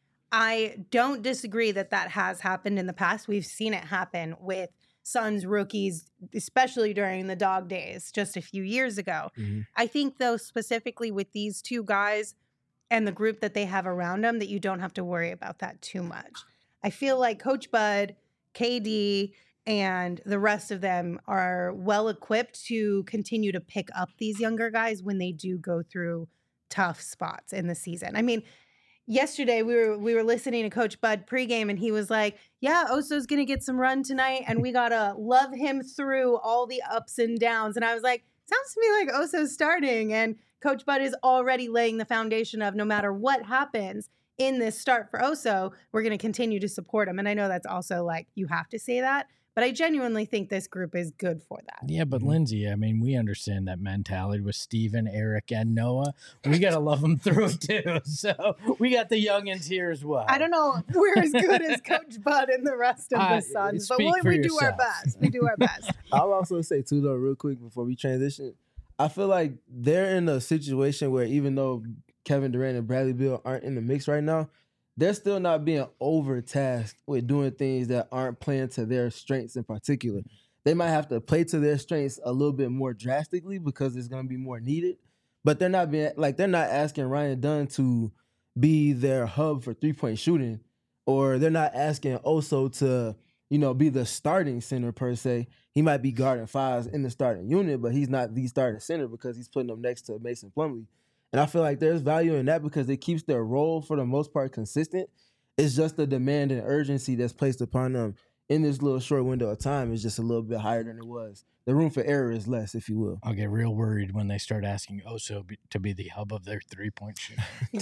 I don't disagree that has happened in the past. We've seen it happen with Suns rookies, especially during the dog days just a few years ago. I think, though, specifically with these two guys and the group that they have around them, that you don't have to worry about that too much. I feel like Coach Bud, KD, and the rest of them are well equipped to continue to pick up these younger guys when they do go through tough spots in the season. I mean, yesterday we were listening to Coach Bud pregame, and he was like, yeah, Oso's going to get some run tonight, and we got to love him through all the ups and downs. And I was like, sounds to me like Oso's starting, and Coach Bud is already laying the foundation of no matter what happens in this start for Oso, we're going to continue to support him. And I know that's also like, you have to say that, but I genuinely think this group is good for that. Yeah, but Lindsay, I mean, we understand that mentality with Steven, Eric, and Noah. We got to love them through it too. So we got the youngins here as well. I don't know if we're as good as Coach Bud and the rest of the Suns, but we do our best. We do our best. I'll also say too, though, real quick before we transition, I feel like they're in a situation where even though Kevin Durant and Bradley Beal aren't in the mix right now, they're still not being overtasked with doing things that aren't playing to their strengths in particular. They might have to play to their strengths a little bit more drastically because it's going to be more needed. But they're not asking Ryan Dunn to be their hub for 3-point shooting, or they're not asking Oso to, be the starting center per se. He might be guarding fives in the starting unit, but he's not the starting center because he's putting them next to Mason Plumlee. And I feel like there's value in that because it keeps their role, for the most part, consistent. It's just the demand and urgency that's placed upon them in this little short window of time is just a little bit higher than it was. The room for error is less, if you will. I'll get real worried when they start asking Oso to be the hub of their 3-point shoot.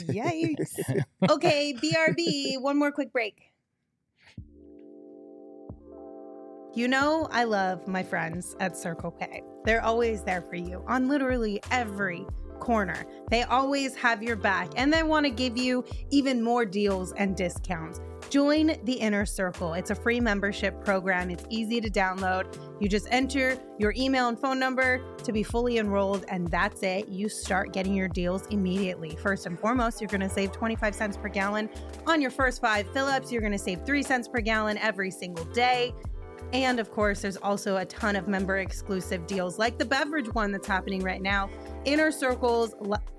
Yikes. Okay, BRB, one more quick break. I love my friends at Circle K. They're always there for you on literally every corner. They always have your back, and they want to give you even more deals and discounts. Join the Inner Circle. It's a free membership program. It's easy to download. You just enter your email and phone number to be fully enrolled, and that's it. You start getting your deals immediately. First and foremost, you're going to save 25 cents per gallon on your first 5 fill-ups. You're going to save 3 cents per gallon every single day. And of course, there's also a ton of member exclusive deals like the beverage one that's happening right now. Inner Circle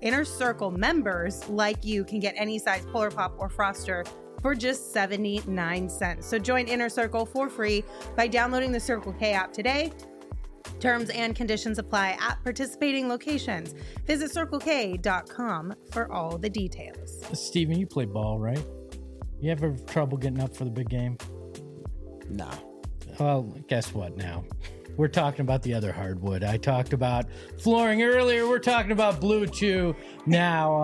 members like you can get any size Polar Pop or Froster for just 79 cents. So join Inner Circle for free by downloading the Circle K app today. Terms and conditions apply at participating locations. Visit CircleK.com for all the details. Steven, you play ball, right? You ever trouble getting up for the big game? Nah. Well, guess what now? We're talking about the other hardwood. I talked about flooring earlier. We're talking about Blue Chew now.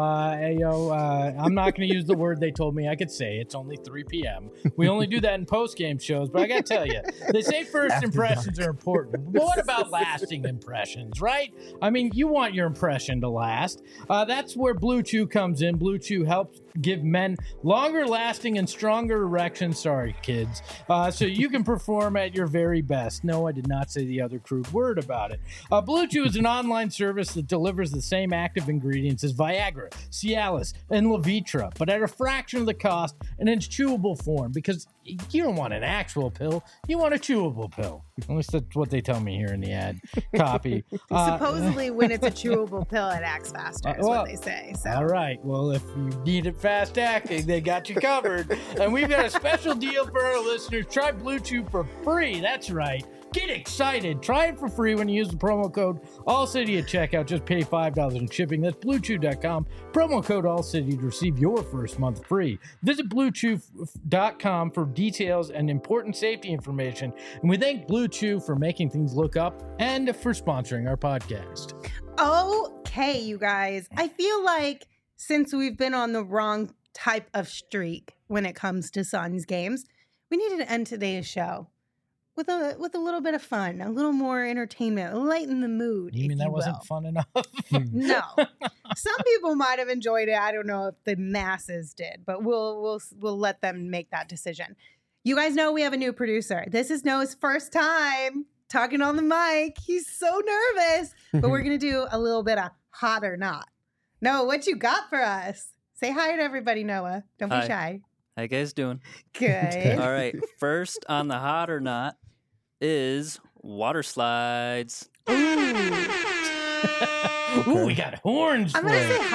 I'm not going to use the word they told me I could say. It's only 3 p.m. We only do that in post-game shows, but I got to tell you, they say first impressions are important. But what about lasting impressions, right? I mean, you want your impression to last. That's where Blue Chew comes in. Blue Chew helps give men longer lasting and stronger erections. Sorry, kids. So you can perform at your very best. No, I did not say the other crude word about it. Blue Chew is an online service that delivers the same active ingredients as Viagra, Cialis, and Levitra, but at a fraction of the cost and in chewable form, because you don't want an actual pill, you want a chewable pill. At least that's what they tell me here in the ad copy. Supposedly when it's a chewable pill, it acts faster, is what they say. So. All right. Well, if you need it fast acting, they got you covered. And we've got a special deal for our listeners. Try Blue Chew for free. That's right. Get excited. Try it for free when you use the promo code ALLCITY at checkout. Just pay $5 in shipping. That's BlueChew.com. Promo code ALLCITY to receive your first month free. Visit BlueChew.com for details and important safety information. And we thank Blue Chew for making things look up and for sponsoring our podcast. Okay, you guys. I feel like since we've been on the wrong type of streak when it comes to Suns games, we needed to end today's show with a little bit of fun, a little more entertainment, lighten the mood. You mean that wasn't will. fun enough? No. Some people might have enjoyed it. I don't know if the masses did, but we'll let them make that decision. You guys know we have a new producer. This is Noah's first time talking on the mic. He's so nervous, but we're going to do a little bit of hot or not. Noah, what you got for us? Say hi to everybody, Noah. Don't be Hi. shy. How you guys doing? Good. All right. First on the hot or not is water slides. Ooh. Ooh, we got horns I'm for going to say it.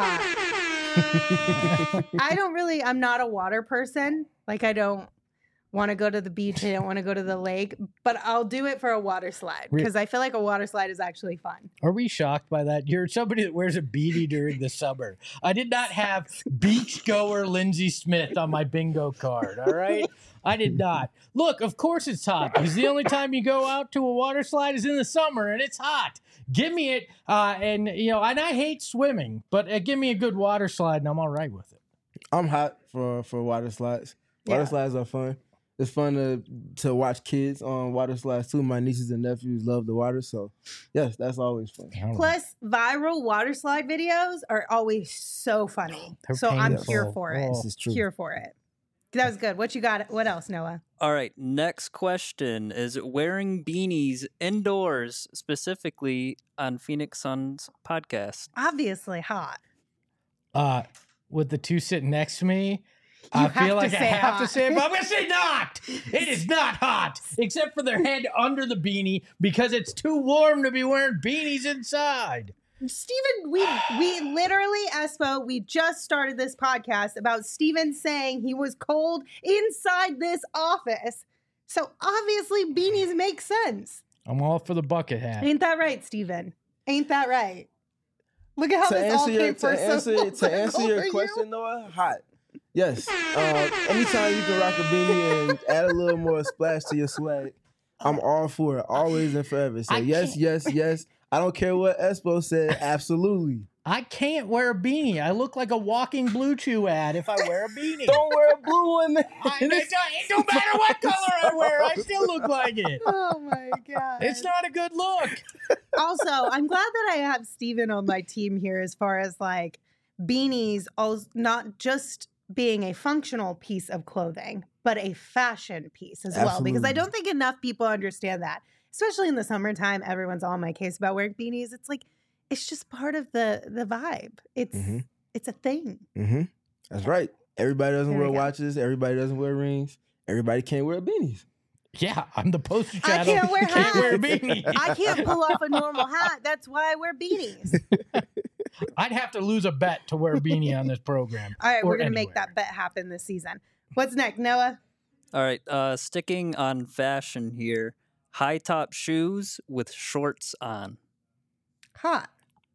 hot. I'm not a water person. Like, I don't want to go to the beach. I don't want to go to the lake, but I'll do it for a water slide because I feel like a water slide is actually fun. Are we shocked by that? You're somebody that wears a beanie during the summer. I did not have beachgoer Lindsey Smith on my bingo card, all right? I did not. Look, of course it's hot because the only time you go out to a water slide is in the summer and it's hot. Give me it. And I hate swimming, but give me a good water slide and I'm all right with it. I'm hot for water slides. Water Yeah. slides are fun. It's fun to watch kids on water slides too. My nieces and nephews love the water, so yes, that's always fun. I don't know. Plus, viral water slide videos are always so funny. They're So I'm painful. here for it. Oh. This is true. Here for it. That was good. What you got? What else, Noah? All right. Next question is wearing beanies indoors, specifically on Phoenix Suns podcast. Obviously hot. With the two sitting next to me, I You have feel to like I say have hot. to say it, but I'm going to say not. It is not hot, except for their head under the beanie because it's too warm to be wearing beanies inside. Steven, we literally, Espo, we just started this podcast about Steven saying he was cold inside this office. So obviously beanies make sense. I'm all for the bucket hat. Ain't that right, Steven? Ain't that right? Look at how this all came for to answer your question, Noah, hot. Yes. Anytime you can rock a beanie and add a little more splash to your swag, I'm all for it. Always and forever. So I yes, can't- yes, yes. I don't care what Espo said. Absolutely. I can't wear a beanie. I look like a walking Blue Chew ad if I wear a beanie. Don't wear a blue one. It don't matter what color I wear. I still look like it. Oh my God. It's not a good look. Also, I'm glad that I have Steven on my team here as far as like beanies, not just being a functional piece of clothing, but a fashion piece as well. Because I Absolutely. don't think enough people understand that, especially in the summertime. Everyone's on my case about wearing beanies. It's like, it's just part of the vibe. It's Mhm. it's a thing. Mm-hmm. That's right. Everybody doesn't There wear we go. watches. Everybody doesn't wear rings. Everybody can't wear beanies. Yeah, I'm the poster I child. can't wear Can't wear a hats. beanie. I can't pull off a normal hat. That's why I wear beanies. I'd have to lose a bet to wear a beanie on this program. All right, Or we're gonna make anywhere. that bet happen this season. What's next, Noah? All right. Sticking on fashion here. High top shoes with shorts on. Hot.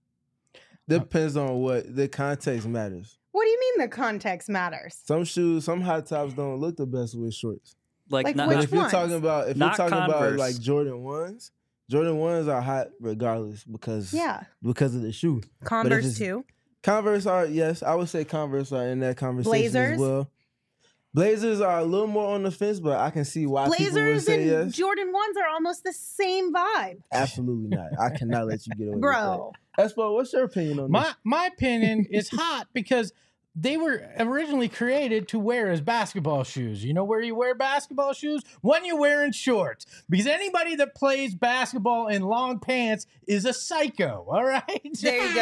Depends on what the context matters. What do you mean the context matters? Some shoes, some high tops don't look the best with shorts. Like not, which But if you're ones? talking about Not Converse. like Jordan 1s, Jordan 1s are hot regardless because Yeah. of the shoe. Converse it's- too. Converse are, yes, I would say Converse are in that conversation Blazers? as well. Blazers are a little more on the fence, but I can see why people would Blazers say and yes. Jordan 1s are almost the same vibe. Absolutely not. I cannot let you get away Bro. with that. Espo, what's your opinion on this? My opinion is hot because they were originally created to wear as basketball shoes. You know where you wear basketball shoes? When you're wearing shorts. Because anybody that plays basketball in long pants is a psycho, all right? There you go.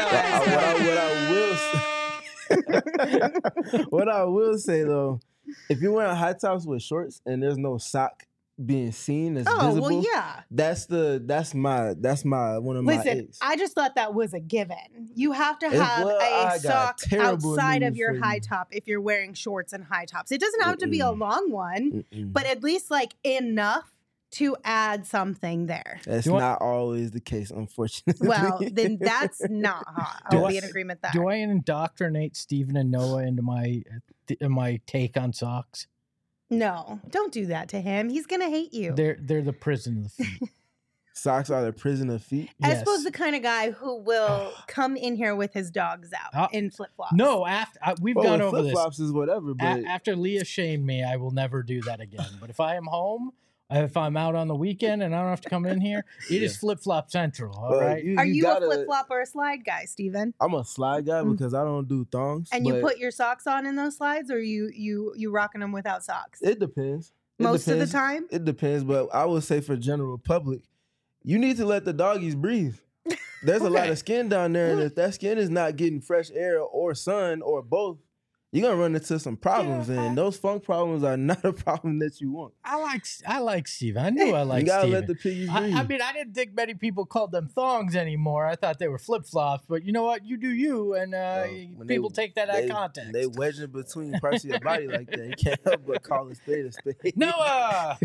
What I will say though, if you're wearing high tops with shorts and there's no sock being seen that's Oh, visible, well, yeah. that's my one of my Listen, eggs. I just thought that was a given. You have to It's- have well, I a got sock terrible outside of news your for high you. top if you're wearing shorts and high tops. It doesn't have to be a long one, Mm-mm. but at least like enough to add something there. That's Do I- not always the case, unfortunately. Well, then that's not hot. Do I'll I- be in agreement there. Do I indoctrinate Stephen and Noah into my take on socks? No, don't do that to him. He's gonna hate you. They're the prison of the feet. Socks are the prison of feet. Yes. Espo's the kind of guy who will come in here with his dogs out in flip flops. No, we've gone over flip this. flops is whatever, but After Leah shamed me, I will never do that again. But if I am home If I'm out on the weekend and I don't have to come in here, it is flip flop central. All right. Are you gotta- a flip flop or a slide guy, Steven? I'm a slide guy Mm. because I don't do thongs. And you but put your socks on in those slides, or you rocking them without socks? it depends. It Most of the depends. time. It depends, but I would say for general public, you need to let the doggies breathe. There's a lot Okay. of skin down there, and if that skin is not getting fresh air or sun or both, you're gonna run into some problems, Yeah, and those funk problems are not a problem that you want. I like Steven. I knew I liked you gotta Steven. let the piggies breathe. I mean, I didn't think many people called them thongs anymore. I thought they were flip flops, but you know what? You do you, and when people take that out of they, context. They wedging between parts of your body like that. You can't help but call a spade a spade. Noah.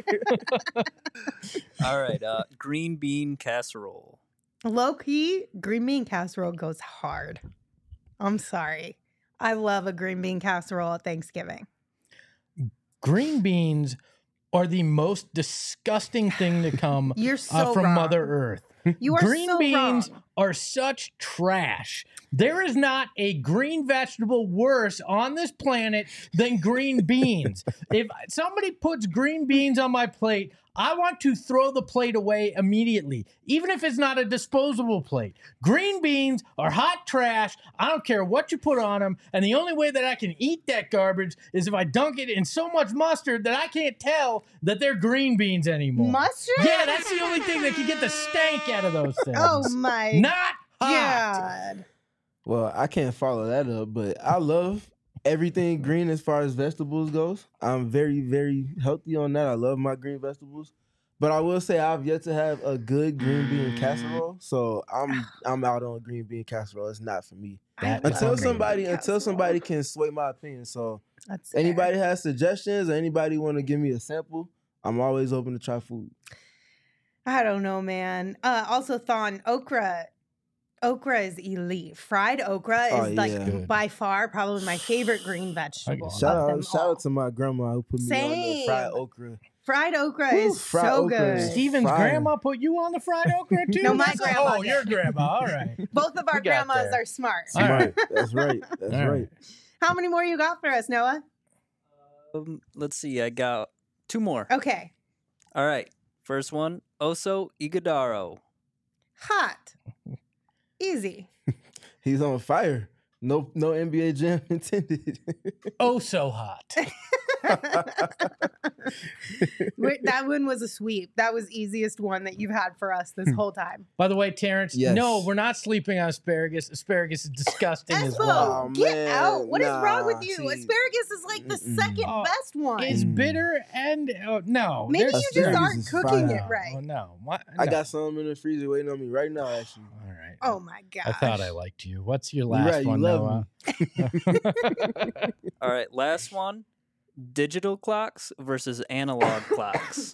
All right, green bean casserole. Low key, green bean casserole goes hard. I'm sorry. I love a green bean casserole at Thanksgiving. Green beans are the most disgusting thing to come You're so from wrong. Mother Earth. You are Green so beans wrong. are such trash. There is not a green vegetable worse on this planet than green beans. If somebody puts green beans on my plate, I want to throw the plate away immediately, even if it's not a disposable plate. Green beans are hot trash. I don't care what you put on them. And the only way that I can eat that garbage is if I dunk it in so much mustard that I can't tell that they're green beans anymore. Mustard? Yeah, that's the only thing that can get the stank out of those things. Oh my Not hot. God. Well, I can't follow that up, but I love everything green as far as vegetables goes. I'm very, very healthy on that. I love my green vegetables. But I will say I've yet to have a good green bean casserole. So I'm out on green bean casserole. It's not for me. That- love Until green somebody bean until casserole. somebody can sway my opinion. So That's fair. anybody has suggestions or anybody want to give me a sample, I'm always open to try food. I don't know, man. Also, Thon, okra. Okra is elite. Fried okra Oh, is like yeah. Good. by far probably my favorite green vegetable. Shout of them out, shout all. out to my grandma who put me on the fried Same. okra. Fried okra Woo, is fried so okra good. is- Steven's Fire. grandma put you on the fried okra too? No, my That's- grandma Oh, did. your grandma. All right. Both of our We got grandmas there. are smart. All right. That's right. That's All right. How many more you got for us, Noah? Let's see, I got two more. Okay. All right, first one, Oso Ighodaro. Hot. Easy. He's on fire. No NBA jam intended. Oh, so hot. That one was a sweep. That was easiest one that you've had for us this whole time. By the way, Terrence, Yes. no, we're not sleeping on asparagus. Asparagus is disgusting as Espo, well. Oh, get man, out. What is wrong with nah, you? see. Asparagus is like the Mm-mm. second Oh, best one. It's bitter and no. Maybe there's- you just Asparagus aren't is cooking fire. it right. Oh, no. What? I No. got some in the freezer waiting on me right now, actually. All right. Oh my gosh. I thought I liked you. What's your You last right, you one, love Noah? All right, last one, digital clocks versus analog clocks.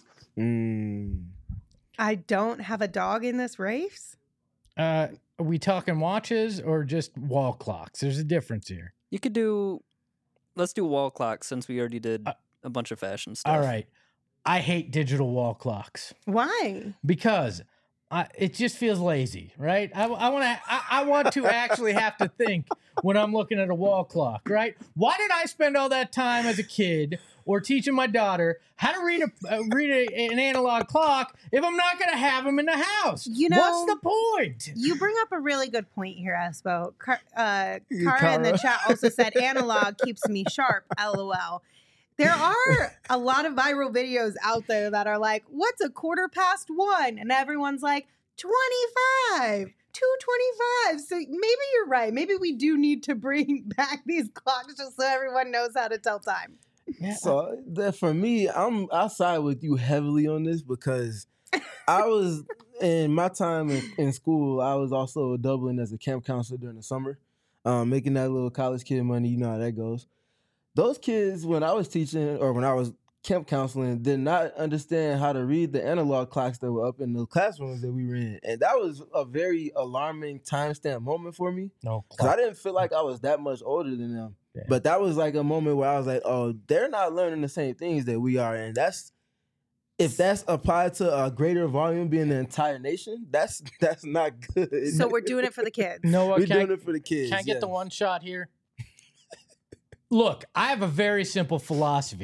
I don't have a dog in this race. Are we talking watches or just wall clocks? There's a difference here. You could do, let's do wall clocks since we already did a bunch of fashion stuff. All right. I hate digital wall clocks Why? because it just feels lazy, right? I want to actually have to think when I'm looking at a wall clock, right? Why did I spend all that time as a kid or teaching my daughter how to read an analog clock if I'm not going to have them in the house? You know- What's the point? You bring up a really good point here, Espo. Kara in the Kara. chat also said analog keeps me sharp, LOL. There are a lot of viral videos out there that are like, what's a 1:15? And everyone's like, 25, 2:25. So maybe you're right. Maybe we do need to bring back these clocks just so everyone knows how to tell time. Yeah, So that for me, I side with you heavily on this because I was in my time in school. I was also doubling as a camp counselor during the summer, making that little college kid money. You know how that goes. Those kids, when I was teaching or when I was camp counseling, did not understand how to read the analog clocks that were up in the classrooms that we were in, and that was a very alarming timestamp moment for me. no Because I clock. didn't feel like I was that much older than them. Yeah. But that was like a moment where I was like, oh, they're not learning the same things that we are. And if that's applied to a greater volume being the entire nation, that's not good. So we're doing it for the kids. Noah, We're can I- doing it for the kids. Can I get the yes. one shot here? Look, I have a very simple philosophy.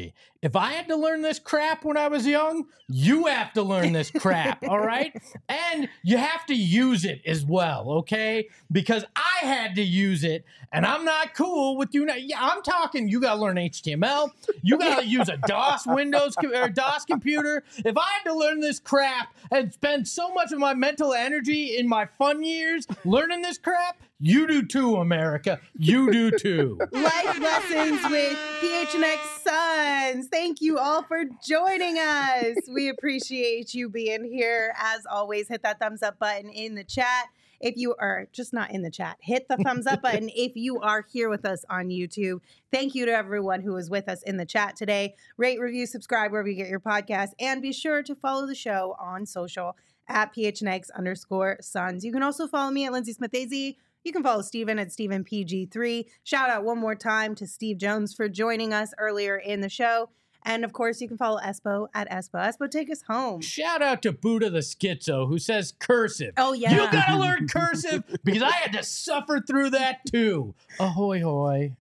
if I had to learn this crap when I was young, you have to learn this crap, all right? And you have to use it as well, okay? Because I had to use it, and I'm not cool with you. Yeah, I'm talking, you got to learn HTML. You got to use a DOS or DOS computer. If I had to learn this crap and spend so much of my mental energy in my fun years learning this crap, you do too, America. You do too. Life lessons with PHNX Suns. Thank you all for joining us. We appreciate you being here. As always, hit that thumbs up button in the chat. If you are just not in the chat, hit the thumbs up button if you are here with us on YouTube. Thank you to everyone who was with us in the chat today. Rate, review, subscribe wherever you get your podcast, and be sure to follow the show on social at PHNX_Suns. You can also follow me at Lindsay Smith AZ. You can follow Steven at StevenPG3. Shout out one more time to Steve Jones for joining us earlier in the show. And of course, you can follow Espo at Espo. Espo, take us home. Shout out to Buddha the Schizo, who says cursive. Oh, yeah. You gotta learn cursive because I had to suffer through that too. Ahoy, hoy.